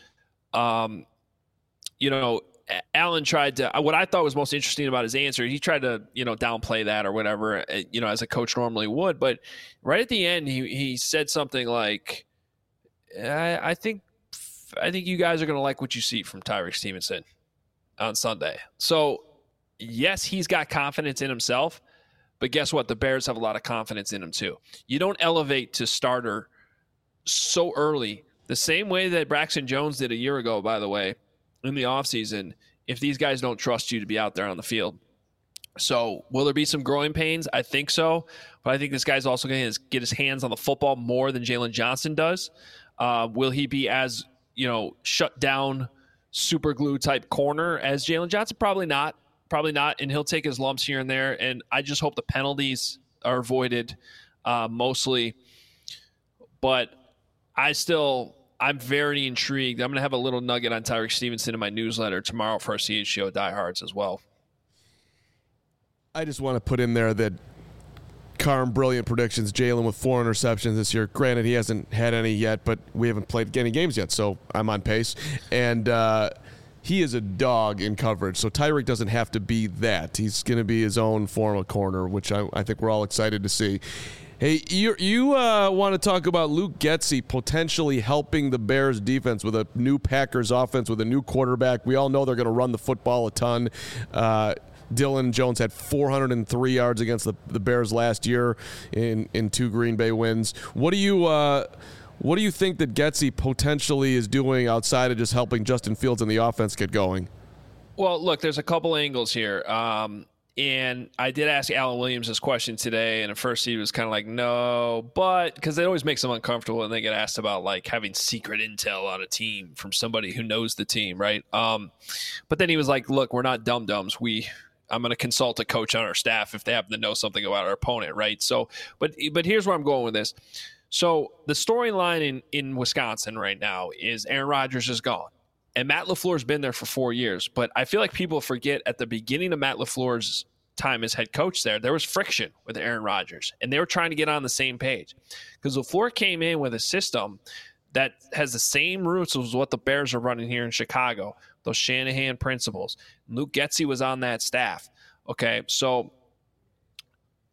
Um, you know, Allen tried to, what I thought was most interesting about his answer, he tried to, you know, downplay that or whatever, you know, as a coach normally would. But right at the end, he, he said something like, I, I think, I think you guys are going to like what you see from Tyrique Stevenson on Sunday. So yes, he's got confidence in himself, but guess what? The Bears have a lot of confidence in him too. You don't elevate to starter so early. The same way that Braxton Jones did a year ago, by the way, in the offseason, if these guys don't trust you to be out there on the field. So will there be some growing pains? I think so. But I think this guy's also going to get his hands on the football more than Jalen Johnson does. Uh, will he be as, you know, shut down, super glue type corner as Jalen Johnson? Probably not. Probably not. And he'll take his lumps here and there. And I just hope the penalties are avoided uh, mostly. But I still... I'm very intrigued. I'm going to have a little nugget on Tyrique Stevenson in my newsletter tomorrow for our C H G O diehards as well. I just want to put in there that Carm, brilliant predictions. Jalen with four interceptions this year. Granted, he hasn't had any yet, but we haven't played any games yet, so I'm on pace. And uh, he is a dog in coverage, so Tyrique doesn't have to be that. He's going to be his own form of corner, which I, I think we're all excited to see. Hey, you you uh, want to talk about Luke Getsy potentially helping the Bears defense with a new Packers offense with a new quarterback. We all know they're going to run the football a ton. Uh, Dylan Jones had four hundred three yards against the, the Bears last year in, in two Green Bay wins. What do you uh, what do you think that Getsy potentially is doing outside of just helping Justin Fields and the offense get going? Well, look, there's a couple angles here. Um, And I did ask Alan Williams this question today, and at first he was kind of like, no, but because it always makes them uncomfortable when they get asked about like having secret intel on a team from somebody who knows the team, right? Um, but then he was like, look, we're not dum-dums. We, I'm going to consult a coach on our staff if they happen to know something about our opponent, right? So, but but here's where I'm going with this. So the storyline in, in Wisconsin right now is Aaron Rodgers is gone. And Matt LaFleur's been there for four years. But I feel like people forget at the beginning of Matt LaFleur's time as head coach there, there was friction with Aaron Rodgers. And they were trying to get on the same page. Because LaFleur came in with a system that has the same roots as what the Bears are running here in Chicago. Those Shanahan principles. Luke Getsy was on that staff. Okay, so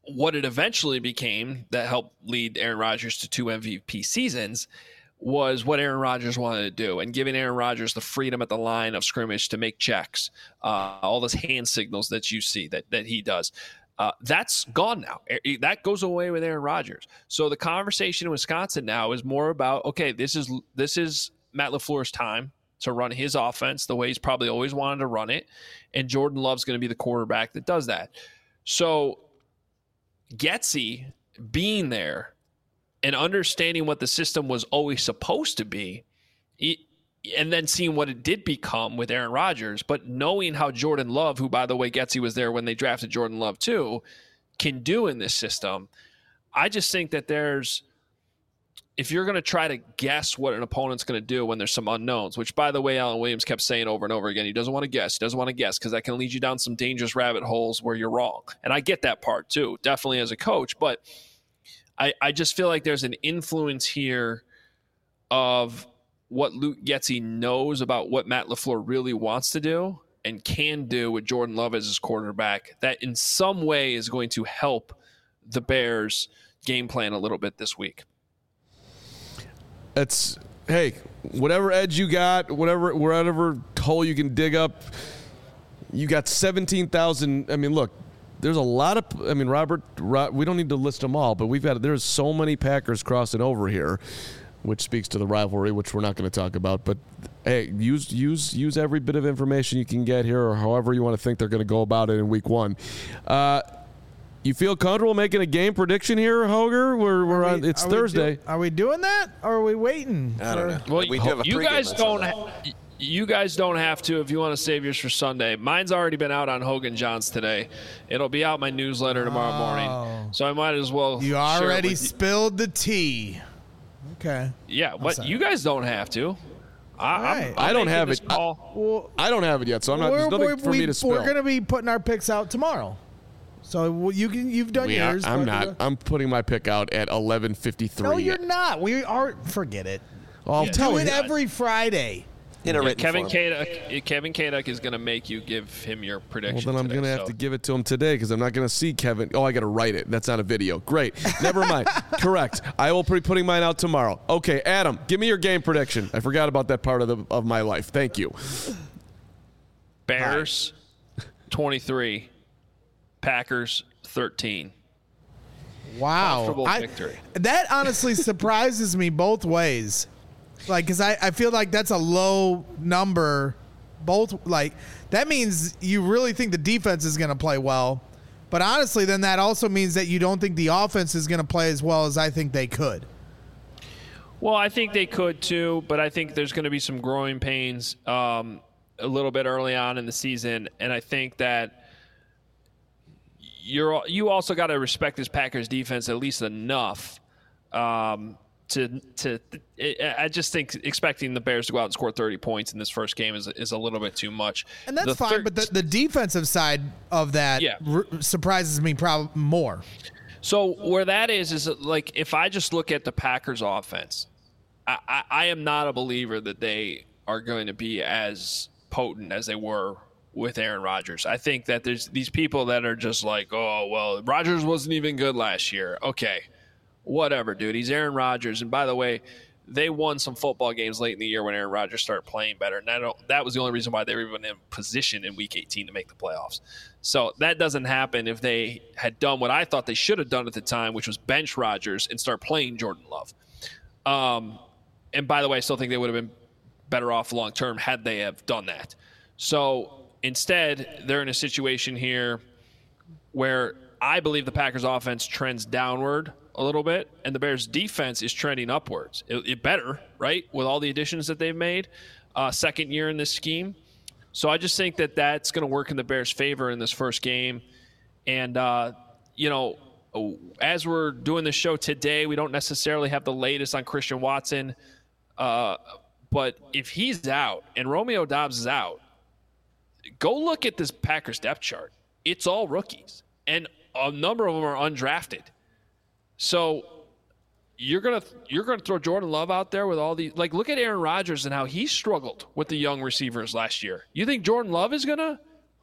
what it eventually became that helped lead Aaron Rodgers to two M V P seasons was what Aaron Rodgers wanted to do, and giving Aaron Rodgers the freedom at the line of scrimmage to make checks, uh, all those hand signals that you see that that he does. Uh, that's gone now. That goes away with Aaron Rodgers. So the conversation in Wisconsin now is more about, okay, this is this is Matt LaFleur's time to run his offense the way he's probably always wanted to run it, and Jordan Love's going to be the quarterback that does that. So Getsy being there and understanding what the system was always supposed to be, and then seeing what it did become with Aaron Rodgers, but knowing how Jordan Love, who, by the way, Getsy was there when they drafted Jordan Love too, can do in this system. I just think that there's, if you're going to try to guess what an opponent's going to do when there's some unknowns, which, by the way, Alan Williams kept saying over and over again, he doesn't want to guess. He doesn't want to guess because that can lead you down some dangerous rabbit holes where you're wrong. And I get that part too, definitely as a coach. But I, I just feel like there's an influence here of what Luke Getsy knows about what Matt LaFleur really wants to do and can do with Jordan Love as his quarterback that in some way is going to help the Bears game plan a little bit this week. It's, hey, whatever edge you got, whatever, whatever hole you can dig up, you got seventeen thousand. I mean, look, there's a lot of, I mean, Robert, we don't need to list them all, but we've got, there's so many Packers crossing over here, which speaks to the rivalry, which we're not going to talk about. But hey, use use use every bit of information you can get here, or however you want to think they're going to go about it in week one. Uh, you feel comfortable making a game prediction here, Hoger? We're we're we, on. It's are Thursday. We do, are we doing that, or are we waiting? I don't know. Well, we do have a you guys pregame don't. on Ha- you guys don't have to if you want to save yours for Sunday. Mine's already been out on Hogan Johns today. It'll be out my newsletter tomorrow Oh. morning, so I might as well. You share it already with you. spilled the tea. Okay. Yeah, but sorry. you guys don't have to. I, I'm- right. I'm I don't making have this it. call. Well, I don't have it yet, so I'm not. There's we're, nothing we're, for we, me to spill. We're going to be putting our picks out tomorrow. So well, you can. You've done We are- yours. I'm but- not. I'm putting my pick out at eleven fifty-three. No, you're not. We are. Forget it. I'll Yeah. tell Do you. it every Friday. in a Yeah, written Kevin form. Kaduk, Kevin Kaduk is going to make you give him your Well, prediction. then I'm today, going to have so. to give it to him today because I'm not going to see Kevin. Oh, I got to write it. That's not a video. Great. Never mind. Correct. I will be putting mine out tomorrow. Okay, Adam, give me your game prediction. I forgot about that part of the of my life. Thank you. Bears twenty-three, Packers thirteen. Wow. Comfortable I- victory. that honestly surprises me both ways. Like, because I, I feel like that's a low number. Both, like, that means you really think the defense is going to play well. But honestly, then that also means that you don't think the offense is going to play as well as I think they could. Well, I think they could too, but I think there's going to be some growing pains um, a little bit early on in the season, and I think that you're you also got to respect this Packers defense at least enough um, to to. I just think expecting the Bears to go out and score thirty points in this first game is is a little bit too much. And that's The fine, thir- but the, the defensive side of that Yeah. r- surprises me prob- more. So where that is is that, like, if I just look at the Packers offense, I, I, I am not a believer that they are going to be as potent as they were with Aaron Rodgers. I think that there's these people that are just like, oh, well, Rodgers wasn't even good last year. Okay, whatever, dude. He's Aaron Rodgers. And by the way, they won some football games late in the year when Aaron Rodgers started playing better. And I don't, that was the only reason why they were even in position in week eighteen to make the playoffs. So that doesn't happen if they had done what I thought they should have done at the time, which was bench Rodgers and start playing Jordan Love. Um, and by the way, I still think they would have been better off long term had they have done that. So instead, they're in a situation here where I believe the Packers offense trends downward a little bit, and the Bears defense is trending upwards. It, it better, right, with all the additions that they've made. Uh, second year in this scheme. So I just think that that's going to work in the Bears' favor in this first game. And, uh, you know, as we're doing this show today, we don't necessarily have the latest on Christian Watson. Uh, but if he's out and Romeo Doubs is out, go look at this Packers depth chart. It's all rookies, and a number of them are undrafted. So you're gonna you're gonna throw Jordan Love out there with all these, like, look at Aaron Rodgers and how he struggled with the young receivers last year. You think Jordan Love is gonna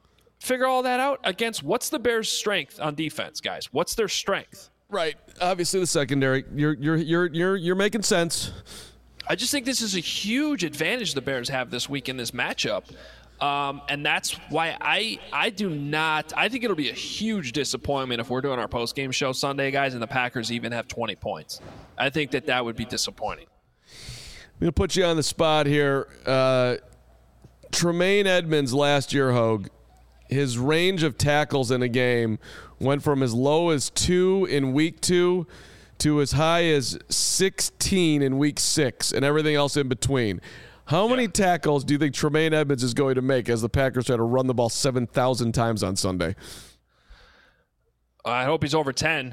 figure all that out against what's the Bears' strength on defense, guys? What's their strength? Right. Obviously, the secondary. You're you're you're you're you're making sense. I just think this is a huge advantage the Bears have this week in this matchup. Um, and that's why I I do not – I think it'll be a huge disappointment if we're doing our postgame show Sunday, guys, and the Packers even have twenty points. I think that that would be disappointing. I'm going to put you on the spot here. Uh, Tremaine Edmonds last year, Hogue, his range of tackles in a game went from as low as two in week two to as high as sixteen in week six and everything else in between. How many yeah. tackles do you think Tremaine Edmonds is going to make as the Packers try to run the ball seven thousand times on Sunday? I hope he's over ten.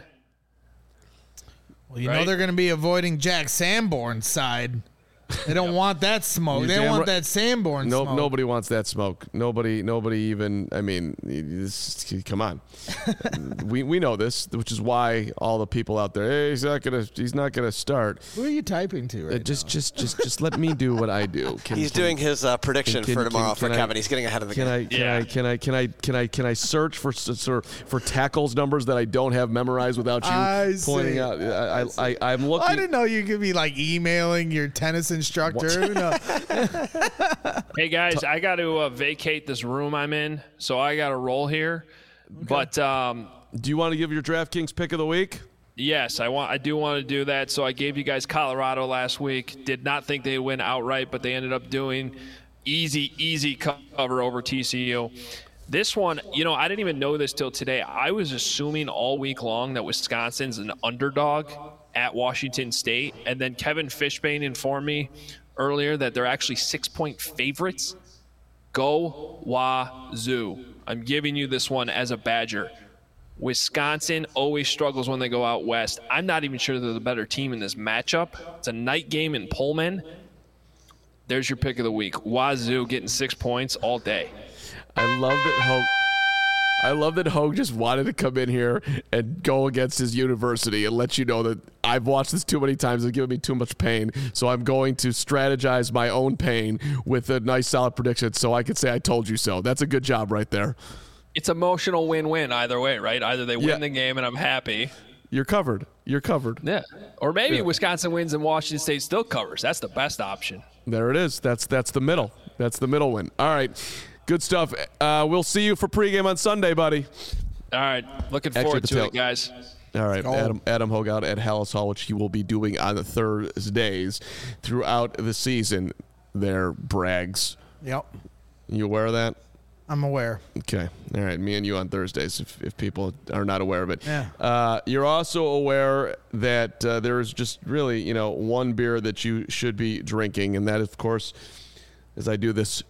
Well, you right? know they're going to be avoiding Jack Sanborn's side. They don't yep. want that smoke. You they don't want right. that Sanborn no, smoke. Nobody wants that smoke. Nobody, nobody even. I mean, this, come on. we we know this, which is why all the people out there. Hey, he's not gonna. He's not gonna start. Who are you typing to right uh, just, now? Just, just, just let me do what I do. Can, he's can, doing his uh, prediction can, for tomorrow can, for can Kevin. I, He's getting ahead of the can game. I, can yeah. I? Can I? Can I? Can I? Can I? Search for for for tackles numbers that I don't have memorized without you I pointing see. out? I, I, I, I'm looking. I didn't know you could be like emailing your tennis instructor. No. Hey guys, I got to uh, vacate this room I'm in, so I got to roll here. Okay. But um, do you want to give your DraftKings pick of the week? Yes, I want. I do want to do that. So I gave you guys Colorado last week. Did not think they'd win outright, but they ended up doing easy, easy cover over T C U. This one, you know, I didn't even know this till today. I was assuming all week long that Wisconsin's an underdog at Washington State, and then Kevin Fishbane informed me earlier that they're actually six-point favorites. Go Wazoo. I'm giving you this one as a Badger. Wisconsin always struggles when they go out west. I'm not even sure they're the better team in this matchup. It's a night game in Pullman. There's your pick of the week. Wazoo getting six points all day. I love that Hogue. I love that Hogue just wanted to come in here and go against his university and let you know that I've watched this too many times. It's given me too much pain. So I'm going to strategize my own pain with a nice, solid prediction so I can say I told you so. That's a good job right there. It's emotional win-win either way, right? Either they win yeah. the game and I'm happy. You're covered. You're covered. Yeah. Or maybe yeah. Wisconsin wins and Washington State still covers. That's the best option. There it is. That's that's the middle. That's the middle win. All right. Good stuff. Uh, we'll see you for pregame on Sunday, buddy. All right. Looking Actually, forward to tail- it, guys. All right. Adam, Adam Hogue out at Hallis Hall, which he will be doing on the Thursdays throughout the season. There, Brags. Yep. You aware of that? I'm aware. Okay. All right. Me and you on Thursdays if, if people are not aware of it. Yeah. Uh, you're also aware that uh, there is just really, you know, one beer that you should be drinking, and that, of course, as I do this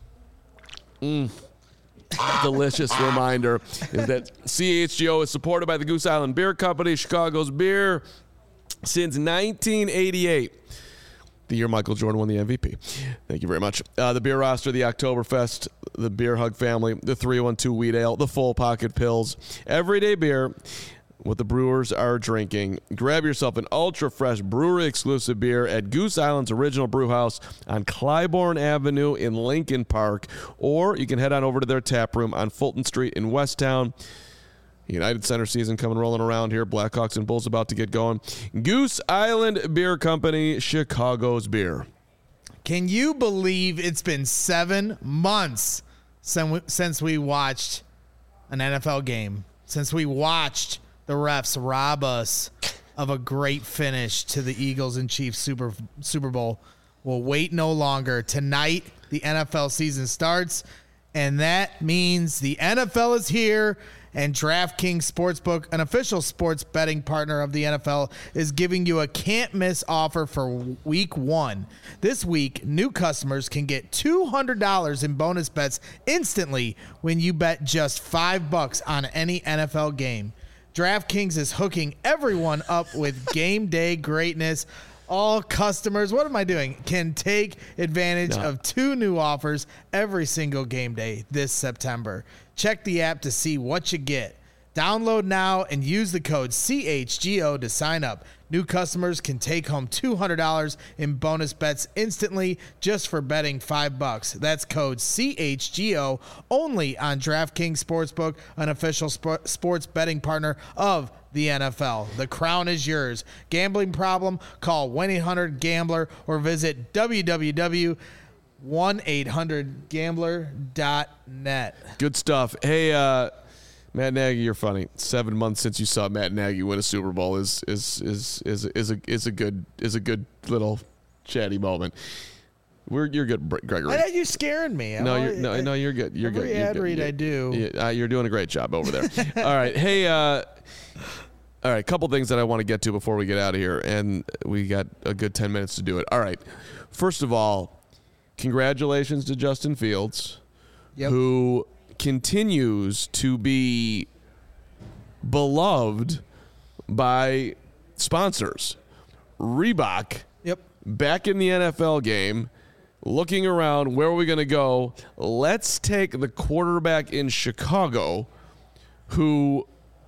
mm, delicious reminder, is that C H G O is supported by the Goose Island Beer Company, Chicago's beer since nineteen eighty-eight. The year Michael Jordan won the M V P. Thank you very much. Uh, the beer roster, the Oktoberfest, the Beer Hug family, the three one two Wheat Ale, the Full Pocket Pills, everyday beer, what the brewers are drinking. Grab yourself an ultra-fresh brewery-exclusive beer at Goose Island's original brew house on Clybourne Avenue in Lincoln Park, or you can head on over to their tap room on Fulton Street in Westtown. United Center season coming rolling around here. Blackhawks and Bulls about to get going. Goose Island Beer Company, Chicago's beer. Can you believe it's been seven months since we watched an N F L game? Since we watched the refs rob us of a great finish to the Eagles and Chiefs Super Super Bowl. We'll wait no longer. Tonight, the N F L season starts, and that means the N F L is here. And DraftKings Sportsbook, an official sports betting partner of the N F L, is giving you a can't-miss offer for week one. This week, new customers can get two hundred dollars in bonus bets instantly when you bet just five bucks on any N F L game. DraftKings is hooking everyone up with game day greatness. All customers, what am I doing, can take advantage no. of two new offers every single game day this September. Check the app to see what you get. Download now and use the code C H G O to sign up. New customers can take home two hundred dollars in bonus bets instantly just for betting five bucks. That's code C H G O only on DraftKings Sportsbook, an official sp- sports betting partner of the N F L. The crown is yours. Gambling problem? Call one eight hundred gambler or visit w w w dot one eight hundred gambler dot net. Good stuff. Hey, uh, Matt Nagy, you're funny. Seven months since you saw Matt Nagy win a Super Bowl is is is is is a is a good is a good little chatty moment. We're you're good, Gregory. Why are you scaring me? No, I'm you're no, no, you're good. You're every good. You're ad good. read You're, I do. Yeah, uh, you're doing a great job over there. All right, hey, uh, all right, a couple things that I want to get to before we get out of here, and we got a good ten minutes to do it. All right, first of all, congratulations to Justin Fields, Yep. who continues to be beloved by sponsors. Reebok, Yep. back in the N F L game, looking around, where are we going to go? Let's take the quarterback in Chicago who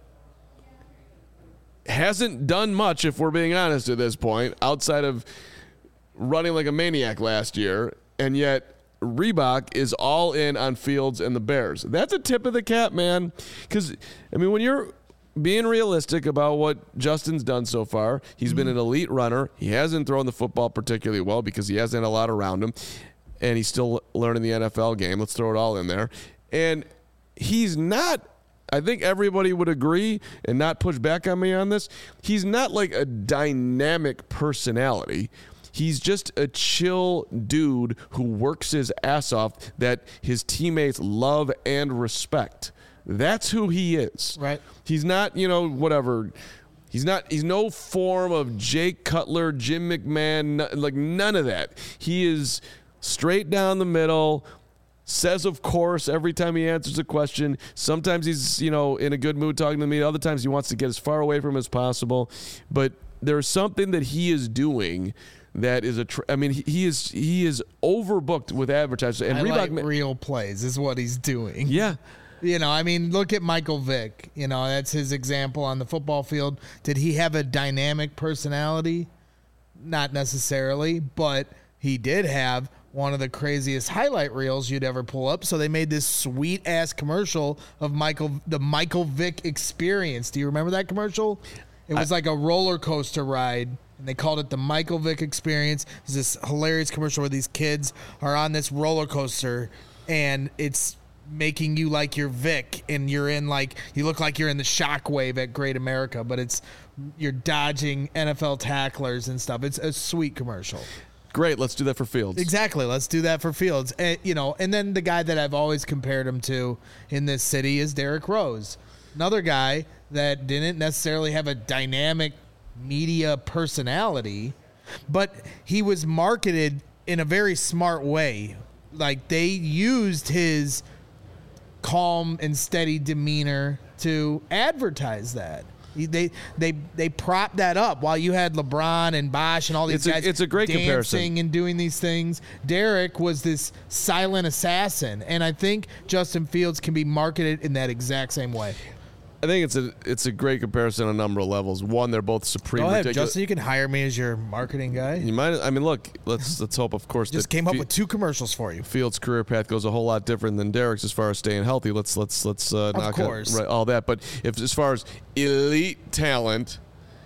hasn't done much, if we're being honest at this point, outside of running like a maniac last year, and yet Reebok is all in on Fields and the Bears. That's a tip of the cap, man. Because, I mean, when you're being realistic about what Justin's done so far, he's mm-hmm. been an elite runner. He hasn't thrown the football particularly well because he hasn't had a lot around him, and he's still learning the N F L game. Let's throw it all in there. And he's not, I think everybody would agree and not push back on me on this, he's not like a dynamic personality. He's just a chill dude who works his ass off that his teammates love and respect. That's who he is. Right. He's not, you know, whatever. He's not, he's no form of Jake Cutler, Jim McMahon, like none of that. He is straight down the middle, says of course every time he answers a question. Sometimes he's, you know, in a good mood talking to me. Other times he wants to get as far away from him as possible. But there's something that he is doing that is a. Tr- I mean, he, he is he is overbooked with advertisers. And Highlight Reebok, real plays is what he's doing. yeah. You know, I mean, look at Michael Vick. You know, that's his example on the football field. Did he have a dynamic personality? Not necessarily, but he did have one of the craziest highlight reels you'd ever pull up. So they made this sweet ass commercial of Michael, the Michael Vick Experience. Do you remember that commercial? It was I, like a roller coaster ride, and they called it the Michael Vick Experience. It's this hilarious commercial where these kids are on this roller coaster, and it's making you like you're Vic, and you're in like you look like you're in the Shockwave at Great America, but it's you're dodging N F L tacklers and stuff. It's a sweet commercial. Great, let's do that for Fields. Exactly, let's do that for Fields. And, you know, and then the guy that I've always compared him to in this city is Derrick Rose, another guy that didn't necessarily have a dynamic media personality, but he was marketed in a very smart way. Like they used his calm and steady demeanor to advertise that. They they they propped that up while you had LeBron and Bosh and all these it's guys. A, it's a great dancing comparison and doing these things. Derrick was this silent assassin, and I think Justin Fields can be marketed in that exact same way. I think it's a it's a great comparison on a number of levels. One, they're both supreme. Go ahead, ridiculous. Justin. You can hire me as your marketing guy. You might. I mean, look. Let's let's hope, of course, Just that came up Fe- with two commercials for you. Fields' career path goes a whole lot different than Derrick's as far as staying healthy. Let's let's let's uh, Of knock out course. right, all that. But if as far as elite talent,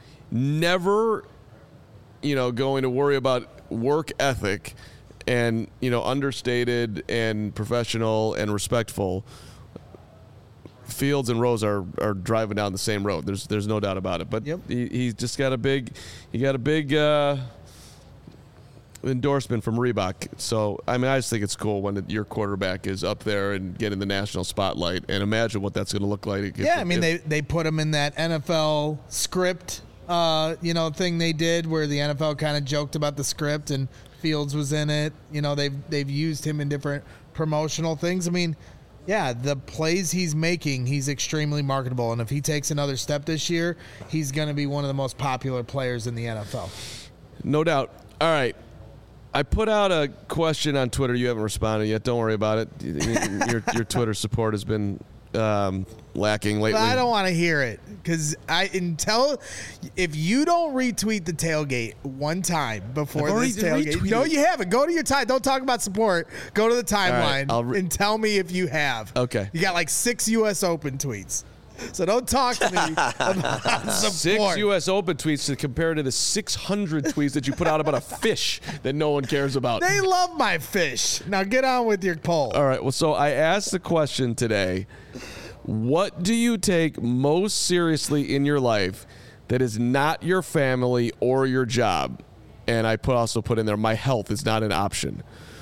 never, you know, going to worry about work ethic, and you know, understated and professional and respectful. Fields and Rose are, are driving down the same road. There's there's no doubt about it. But yep. he he's just got a big he got a big uh, endorsement from Reebok. So I mean, I just think it's cool when your quarterback is up there and getting the national spotlight. And imagine what that's going to look like. If, Yeah, I mean, if, they they put him in that N F L script, uh, you know, thing they did where the N F L kind of joked about the script and Fields was in it. You know, they've they've used him in different promotional things. I mean. Yeah, the plays he's making, he's extremely marketable. And if he takes another step this year, he's going to be one of the most popular players in the N F L. No doubt. All right. I put out a question on Twitter. You haven't responded yet. Don't worry about it. Your, your Twitter support has been um, lacking lately. But I don't want to hear it because I until if you don't retweet the tailgate one time before I've this already tailgate, retweeted no, it. you haven't. Go to your time. Don't talk about support. Go to the timeline I'll re- and tell me if you have. Okay. You got like six U S Open tweets, so don't talk to me about support. Six U S Open tweets to compare to the six hundred tweets that you put out about a fish that no one cares about. They love my fish. Now get on with your poll. All right. Well, so I asked the question today. What do you take most seriously in your life that is not your family or your job? And I put also put in there, my health is not an option.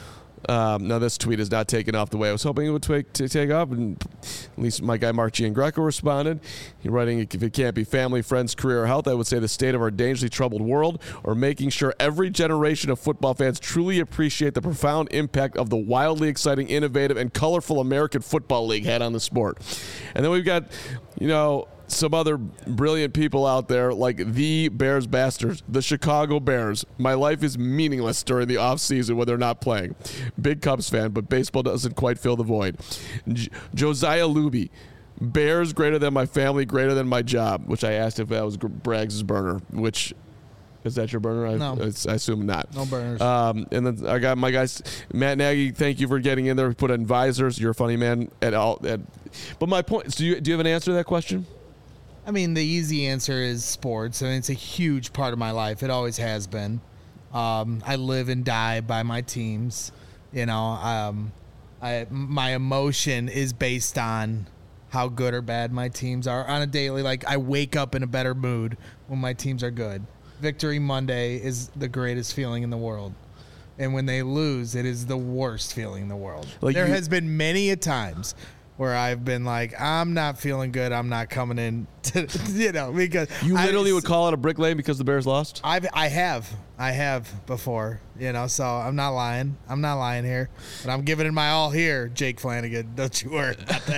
Um, now, this tweet is not taken off the way I was hoping it would take, to take off. And at least my guy, Mark Giangreco, responded. He writing, if it can't be family, friends, career, or health, I would say the state of our dangerously troubled world, or making sure every generation of football fans truly appreciate the profound impact of the wildly exciting, innovative, and colorful American Football League had on the sport. And then we've got, you know, some other brilliant people out there like the Bears Bastards, the Chicago Bears. My life is meaningless during the offseason when they're not playing. Big Cubs fan, but baseball doesn't quite fill the void. J- Josiah Luby, Bears greater than my family, greater than my job, which I asked if that was Braggs' burner, which... Is that your burner? I, No. it's, I assume not. No burners. Um, and then I got my guys, Matt Nagy. Thank you for getting in there. We put in visors. You're a funny man at all. At, but my point is, do you do you have an answer to that question? I mean, the easy answer is sports, and it's a huge part of my life. It always has been. Um, I live and die by my teams. You know, um, I, my emotion is based on how good or bad my teams are on a daily. Like, I wake up in a better mood when my teams are good. Victory Monday is the greatest feeling in the world. And when they lose, it is the worst feeling in the world. Like there you- has been many a times where I've been like, I'm not feeling good. I'm not coming in, to, you know, because You I- literally would call it a brick lane because the Bears lost? I've, I have, I have before, you know, so I'm not lying. I'm not lying here, but I'm giving it my all here, Jake Flanagan. Don't you worry about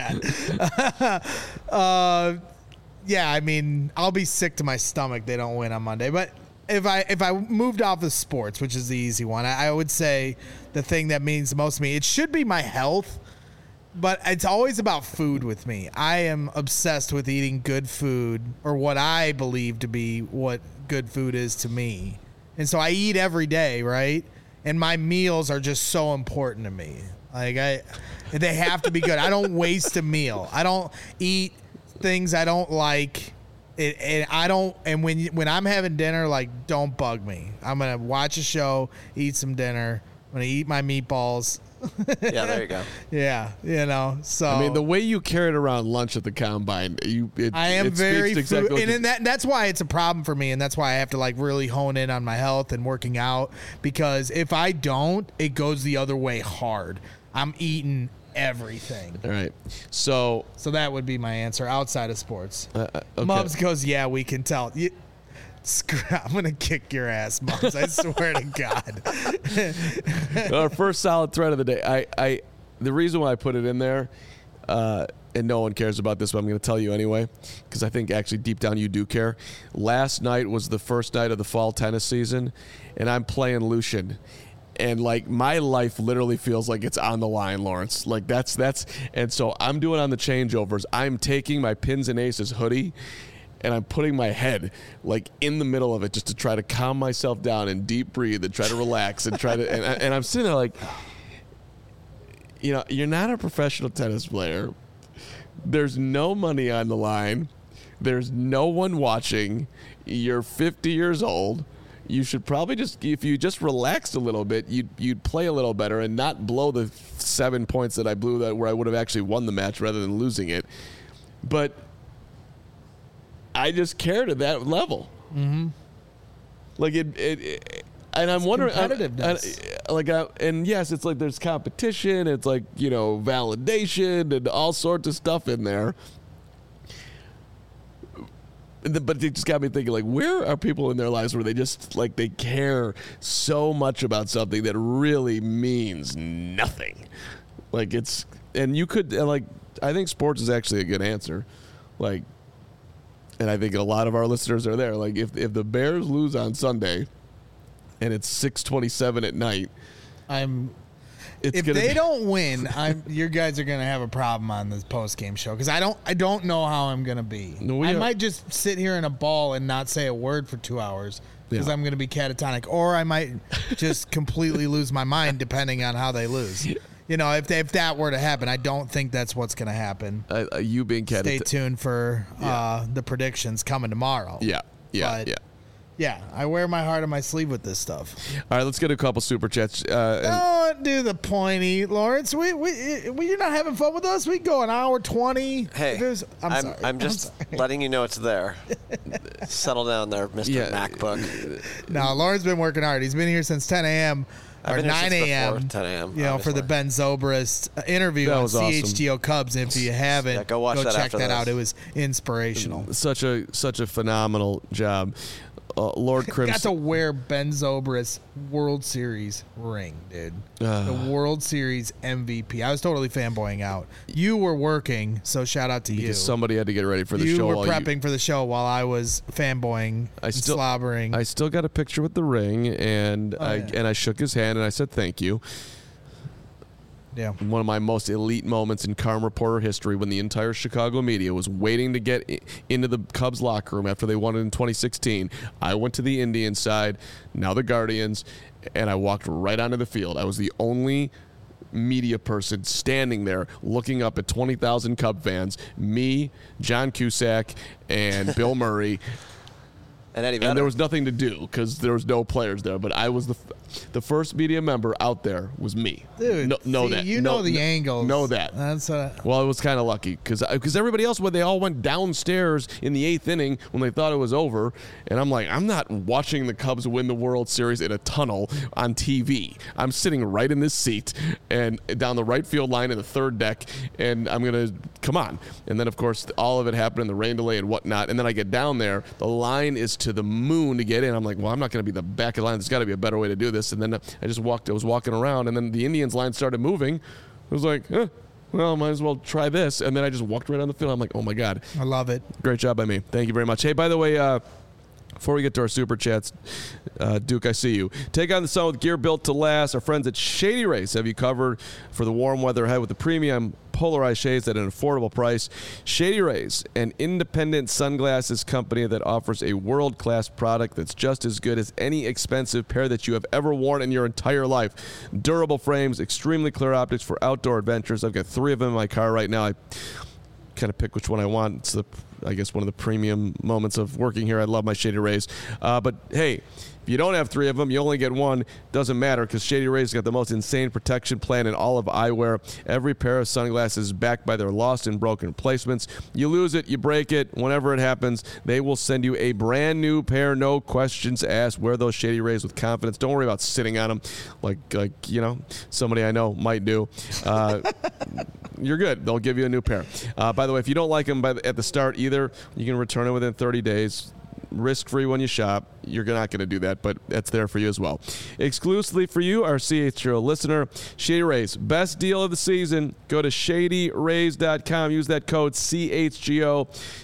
that. uh, yeah, I mean, I'll be sick to my stomach. They don't win on Monday, but if I if I moved off of sports, which is the easy one, I, I would say the thing that means the most to me, it should be my health. But it's always about food with me. I am obsessed with eating good food, or what I believe to be what good food is to me. And so I eat every day, right? And my meals are just so important to me. Like I, they have to be good. I don't waste a meal. I don't eat things I don't like. It, and I don't. And when you, when I'm having dinner, like, don't bug me. I'm gonna watch a show, eat some dinner. I'm gonna eat my meatballs. Yeah, there you go. Yeah, you know. So I mean, the way you carried around lunch at the combine, you it, I am it speaks very to exactly food, what and you- in that that's why it's a problem for me, and that's why I have to like really hone in on my health and working out, because if I don't, it goes the other way hard. I'm eating everything. All right. So, So that would be my answer outside of sports. uh, uh, okay. Mubs goes, yeah, we can tell. You, screw, I'm gonna kick your ass, Mubs. I swear to God. Our first solid thread of the day. I, I, the reason why I put it in there, uh, and no one cares about this, but I'm going to tell you anyway, because I think actually deep down you do care. Last night was the first night of the fall tennis season, and I'm playing Lucian. And like my life literally feels like it's on the line, Lawrence. Like that's that's, and so I'm doing on the changeovers. I'm taking my Pins and Aces hoodie, and I'm putting my head like in the middle of it just to try to calm myself down and deep breathe and try to relax and try to. And, I- and I'm sitting there like, you know, you're not a professional tennis player. There's no money on the line. There's no one watching. You're fifty years old. You should probably just, if you just relaxed a little bit, you'd you'd play a little better and not blow the seven points that I blew that where I would have actually won the match rather than losing it. But I just cared at that level. Mm-hmm. Like it, it, it and I'm It's wondering, I- competitiveness. I- like, I, and yes, it's like there's competition. It's like, you know, validation and all sorts of stuff in there. But it just got me thinking, like, where are people in their lives where they just, like, they care so much about something that really means nothing? Like, it's, and you could, and like, I think sports is actually a good answer. Like, and I think a lot of our listeners are there. Like, if if the Bears lose on Sunday and it's six twenty-seven at night, I'm It's if gonna they be- don't win, I'm you guys are gonna have a problem on this post game show because I don't I don't know how I'm gonna be. No, we I are- might just sit here in a ball and not say a word for two hours because Yeah. I'm gonna be catatonic, or I might just completely lose my mind depending on how they lose. You know, if they, if that were to happen, I don't think that's what's gonna happen. Uh, uh, you being cat. Stay tuned for uh, the predictions coming tomorrow. Yeah, yeah, But- yeah. Yeah, I wear my heart on my sleeve with this stuff. All right, let's get a couple super chats. Uh, and- Don't do the pointy, Lawrence. We, we, we, you're not having fun with us. We go an hour twenty. Hey, There's- I'm, I'm, sorry. I'm just sorry. letting you know it's there. Settle down there, Mister Yeah. MacBook. No, Lawrence been working hard. He's been here since ten a.m. I've or been here nine since a.m. before ten a.m., You know, for the obviously. Ben Zobrist uh, interview That on was awesome. C H G O Cubs. If you haven't, Yeah, go watch that check after that this. out. It was inspirational. such a such a phenomenal job, uh, Lord Got Crimson. to wear Ben Zobrist World Series ring, dude. Ah. the World Series M V P. I was totally fanboying out. You were working, so shout out to you. Because somebody had to get ready for the you show. were while prepping for the show while I was fanboying I and still- slobbering. I still got a picture with the ring, and I Oh, yeah. and I shook his hand and I said thank you. yeah. One of my most elite moments in Carm Reporter history, when the entire Chicago media was waiting to get i- into the Cubs locker room after they won it in twenty sixteen. I went to the Indians side, now the Guardians, and I walked right onto the field. I was the only media person standing there looking up at twenty thousand Cub fans, me, John Cusack, and Bill Murray. And Eddie Vedder. And there was nothing to do because there was no players there. But I was the f- the first media member out there was me. Dude, no, know see, that. you No- know the no- angles. Know that. That's uh, Well, I was kind of lucky because because everybody else, when they all went downstairs in the eighth inning when they thought it was over, and I'm like, I'm not watching the Cubs win the World Series in a tunnel on T V. I'm sitting right in this seat and down the right field line in the third deck, and I'm gonna come on. And then of course all of it happened in the rain delay and whatnot. And then I get down there, the line is to the moon to get in. I'm like, well, I'm not gonna be the back of the line. There's got to be a better way to do this. And then I just walked. I was walking around, and then the Indians line started moving. I was like, eh, well, might as well try this. And then I just walked right on the field. I'm like, oh my God. I love it. Great job by me. Thank you very much. Hey, by the way, uh, before we get to our super chats, uh, Duke, I see you. Take on the sun with gear built to last. Our friends at Shady Rays have you covered for the warm weather ahead with the premium polarized shades at an affordable price. Shady Rays, an independent sunglasses company that offers a world-class product that's just as good as any expensive pair that you have ever worn in your entire life. Durable frames, extremely clear optics for outdoor adventures. I've got three of them in my car right now. I kind of pick which one I want. It's the, I guess, one of the premium moments of working here. I love my Shady Rays. Uh, but hey, if you don't have three of them, you only get one. Doesn't matter because Shady Rays got the most insane protection plan in all of eyewear. Every pair of sunglasses is backed by their lost and broken replacements. You lose it, you break it. Whenever it happens, they will send you a brand new pair, no questions asked. Wear those Shady Rays with confidence. Don't worry about sitting on them like, like you know, somebody I know might do. Uh, you're good. They'll give you a new pair. Uh, by the way, if you don't like them by the, at the start either, you can return it within thirty days. Risk-free when you shop. You're not going to do that, but that's there for you as well. Exclusively for you, our C H G O listener, Shady Rays. Best deal of the season. Go to shady rays dot com. Use that code C H G O.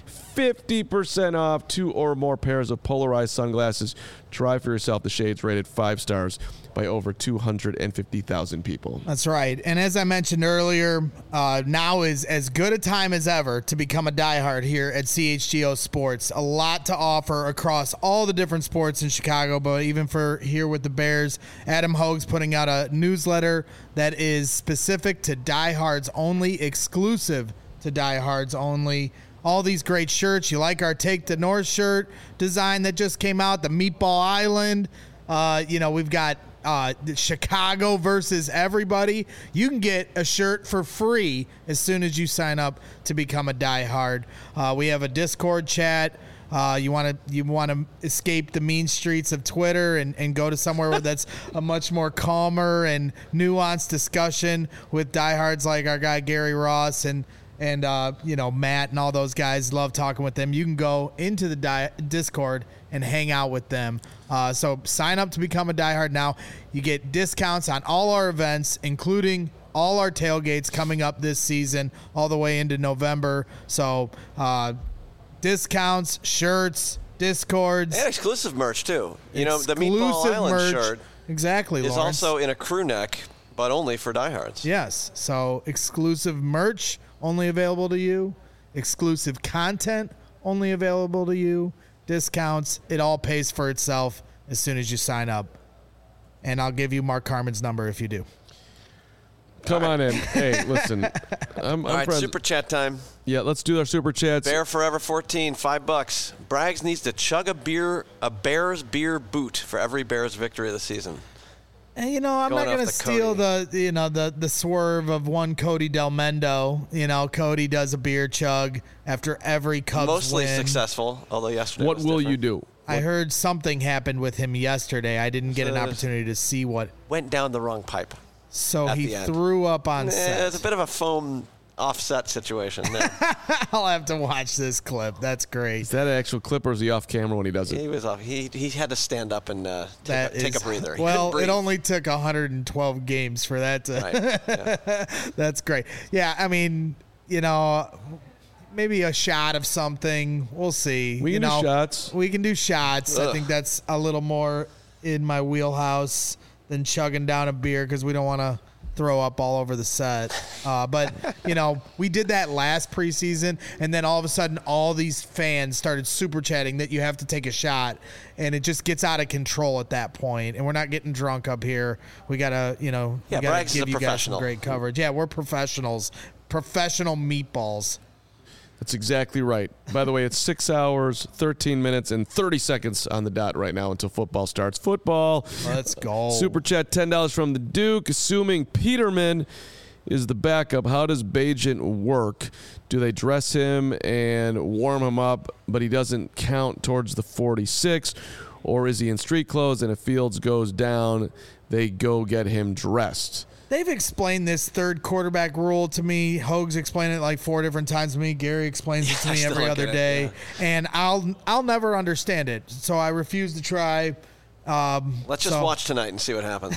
fifty percent off two or more pairs of polarized sunglasses. Try for yourself the shades rated five stars by over two hundred fifty thousand people. That's right. And as I mentioned earlier, uh, now is as good a time as ever to become a diehard here at C H G O Sports. A lot to offer across all the different sports in Chicago, but even for here with the Bears, Adam Hogue's putting out a newsletter that is specific to diehards only, exclusive to diehards only. All these great shirts. You like our Take the North shirt design that just came out, the Meatball Island. Uh, you know, we've got uh, Chicago versus everybody. You can get a shirt for free as soon as you sign up to become a diehard. Uh, we have a Discord chat. Uh, you want to you want to escape the mean streets of Twitter and, and go to somewhere where that's a much more calmer and nuanced discussion with diehards like our guy Gary Ross and and uh, you know, Matt and all those guys. Love talking with them. You can go into the di- Discord and hang out with them. Uh, so sign up to become a diehard now. You get discounts on all our events, including all our tailgates coming up this season, all the way into November. So uh, discounts, shirts, Discords, And exclusive merch, too. You know, the Meatball exclusive Island merch. shirt Exactly, is Lawrence. also in a crew neck but only for diehards. Yes. So exclusive merch only available to you. Exclusive content only available to you. Discounts. It all pays for itself as soon as you sign up. And I'll give you Mark Carman's number if you do. Come on in. Hey, listen. I'm, I'm All right, friends. super chat time. Yeah, let's do our super chats. Bear Forever fourteen, five bucks. Braggs needs to chug a beer, a Bears beer boot for every Bears victory of the season. And, you know, I'm Going not off going the to steal Cody. the, you know, the the swerve of one Cody Del Mendo. You know, Cody does a beer chug after every Cubs Mostly win. successful, although yesterday What was will different. you do? I heard something happened with him yesterday. I didn't get an So- opportunity to see what. Went down the wrong pipe. So At he the end. threw up on Eh, set. It's a bit of a foam offset situation there. I'll have to watch this clip. That's great. Is that an actual clip or is he off camera when he does it? he was off. He he had to stand up and uh, take, That a, take is- a breather. He Well, couldn't it breathe. only took one hundred twelve games for that to. Right. Yeah. That's great. Yeah, I mean, you know, maybe a shot of something. We'll see. We you can do know, shots. We can do shots. I Ugh. think that's a little more in my wheelhouse than chugging down a beer because we don't want to throw up all over the set. Uh, but, you know, we did that last preseason, and then all of a sudden all these fans started super chatting that you have to take a shot, and it just gets out of control at that point, and we're not getting drunk up here. We got to, you know, Yeah, we got Braggs is to a give you guys some professional. great coverage. Yeah, we're professionals. Professional meatballs. That's exactly right. By the way, it's six hours, thirteen minutes, and thirty seconds on the dot right now until football starts. Football. Let's go. Super chat, ten dollars from the Duke. Assuming Peterman is the backup, how does Bajent work? Do they dress him and warm him up, but he doesn't count towards the forty-six? Or is he in street clothes and if Fields goes down, they go get him dressed? They've explained this third quarterback rule to me. Hogue's explained it like four different times to me. Gary explains it to Yeah, I me still every don't other get it, day, yeah. and I'll I'll never understand it. So I refuse to try. Um, Let's just so- watch tonight and see what happens.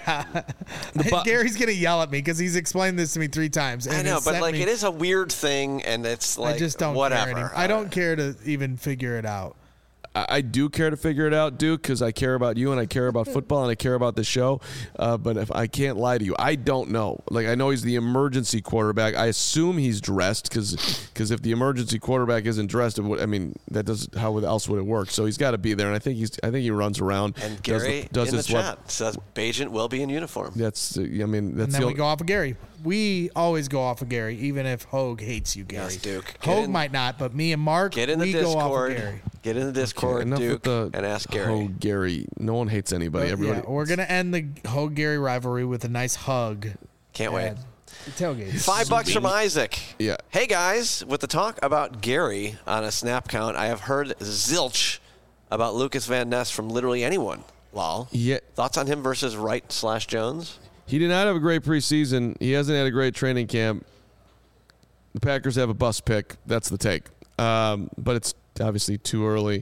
bu- Gary's gonna yell at me because he's explained this to me three times. I and know, has but sent like me- it is a weird thing, and it's like I just don't whatever. care anymore. I don't care to even figure it out. I I do care to figure it out, Duke, because I care about you and I care about football and I care about the show. Uh, but if I can't lie to you, I don't know. Like, I know he's the emergency quarterback. I assume he's dressed because if the emergency quarterback isn't dressed, it would, I mean, that does how would- else would it work? So he's got to be there, and I think he's. I think he runs around. And does the- Gary does in the his left- chat says Bajent will be in uniform. That's. Uh, I mean, that's And the then we only, go off of Gary. We always go off of Gary, even if Hogue hates you, Gary. Yes, Duke. Get Hogue in- might not, but me and Mark, Get in the we go off Discord. of Gary. Get in the Discord, enough Duke, with the and ask Gary. Oh, Gary. No one hates anybody. Everybody. Yeah, we're gonna end the Hogue Gary rivalry with a nice hug. Can't wait. at the tailgate. Five bucks from Isaac. Yeah. Hey guys, with the talk about Gary on a snap count, I have heard zilch about Lucas Van Ness from literally anyone. Lol. Yeah. Thoughts on him versus Wright slash Jones? He did not have a great preseason. He hasn't had a great training camp. The Packers have a bust pick. That's the take. Um, but it's obviously too early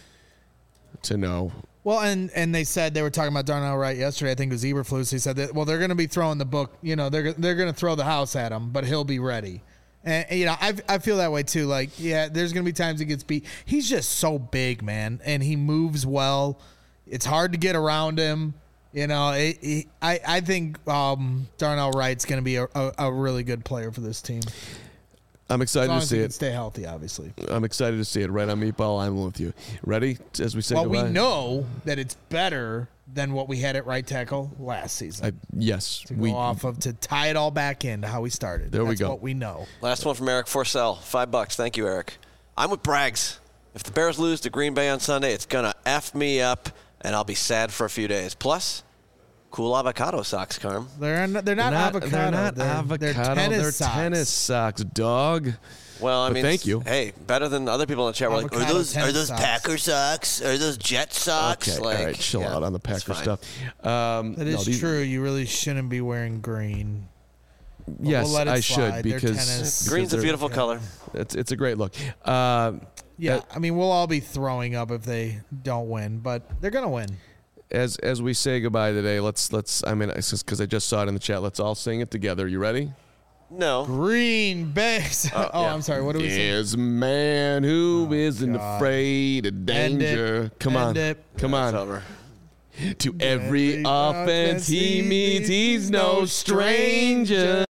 to know. Well, and and they said they were talking about Darnell Wright yesterday. I think it was Eberflus. He said that well, they're going to be throwing the book. You know, they're they're going to throw the house at him, but he'll be ready. And you know, I I feel that way too. Like, yeah, there's going to be times he gets beat. He's just so big, man, and he moves well. It's hard to get around him. You know, it, it, I I think um, Darnell Wright's going to be a, a, a really good player for this team. I'm As excited long to as see he can it. stay healthy, obviously. I'm excited to see it. Right on Meatball, I'm with you. Ready? As we say Well, we goodbye? know that it's better than what we had at right tackle last season. I, yes. to we go off of to tie it all back into how we started. There we That's go. what we know. Last one from Eric Forsell. Five bucks. Thank you, Eric. I'm with Braggs. If the Bears lose to Green Bay on Sunday, it's going to F me up, and I'll be sad for a few days. Plus, cool avocado socks, Carm. They're not, they're not, They're not, avocado. they're not They're, avocado. They're tennis They're socks. tennis socks, dog. Well, I But mean, thank you. Hey, better than other people in the chat. We're like, are Avocado those are tennis those socks. Packer socks? Are those Jet socks? Okay, Like, all right, chill yeah, out on the it's Packer fine. stuff. Um, That no, is these- true. You really shouldn't be wearing green. But Yes, we'll let it I slide. should They're because tennis. because Green's a they're- beautiful color. It's it's a great look. Um, Yeah, Uh, I mean, we'll all be throwing up if they don't win, but they're gonna win. as as we say goodbye today, let's let's. I mean, it's just because I just saw it in the chat. Let's all sing it together. You ready? No. Green Bays. Oh, yeah. I'm sorry. What do we say? Is a man who isn't God. afraid of End it. danger. Come End on, it. come It's on. over. To every offense he meets, he's no stranger.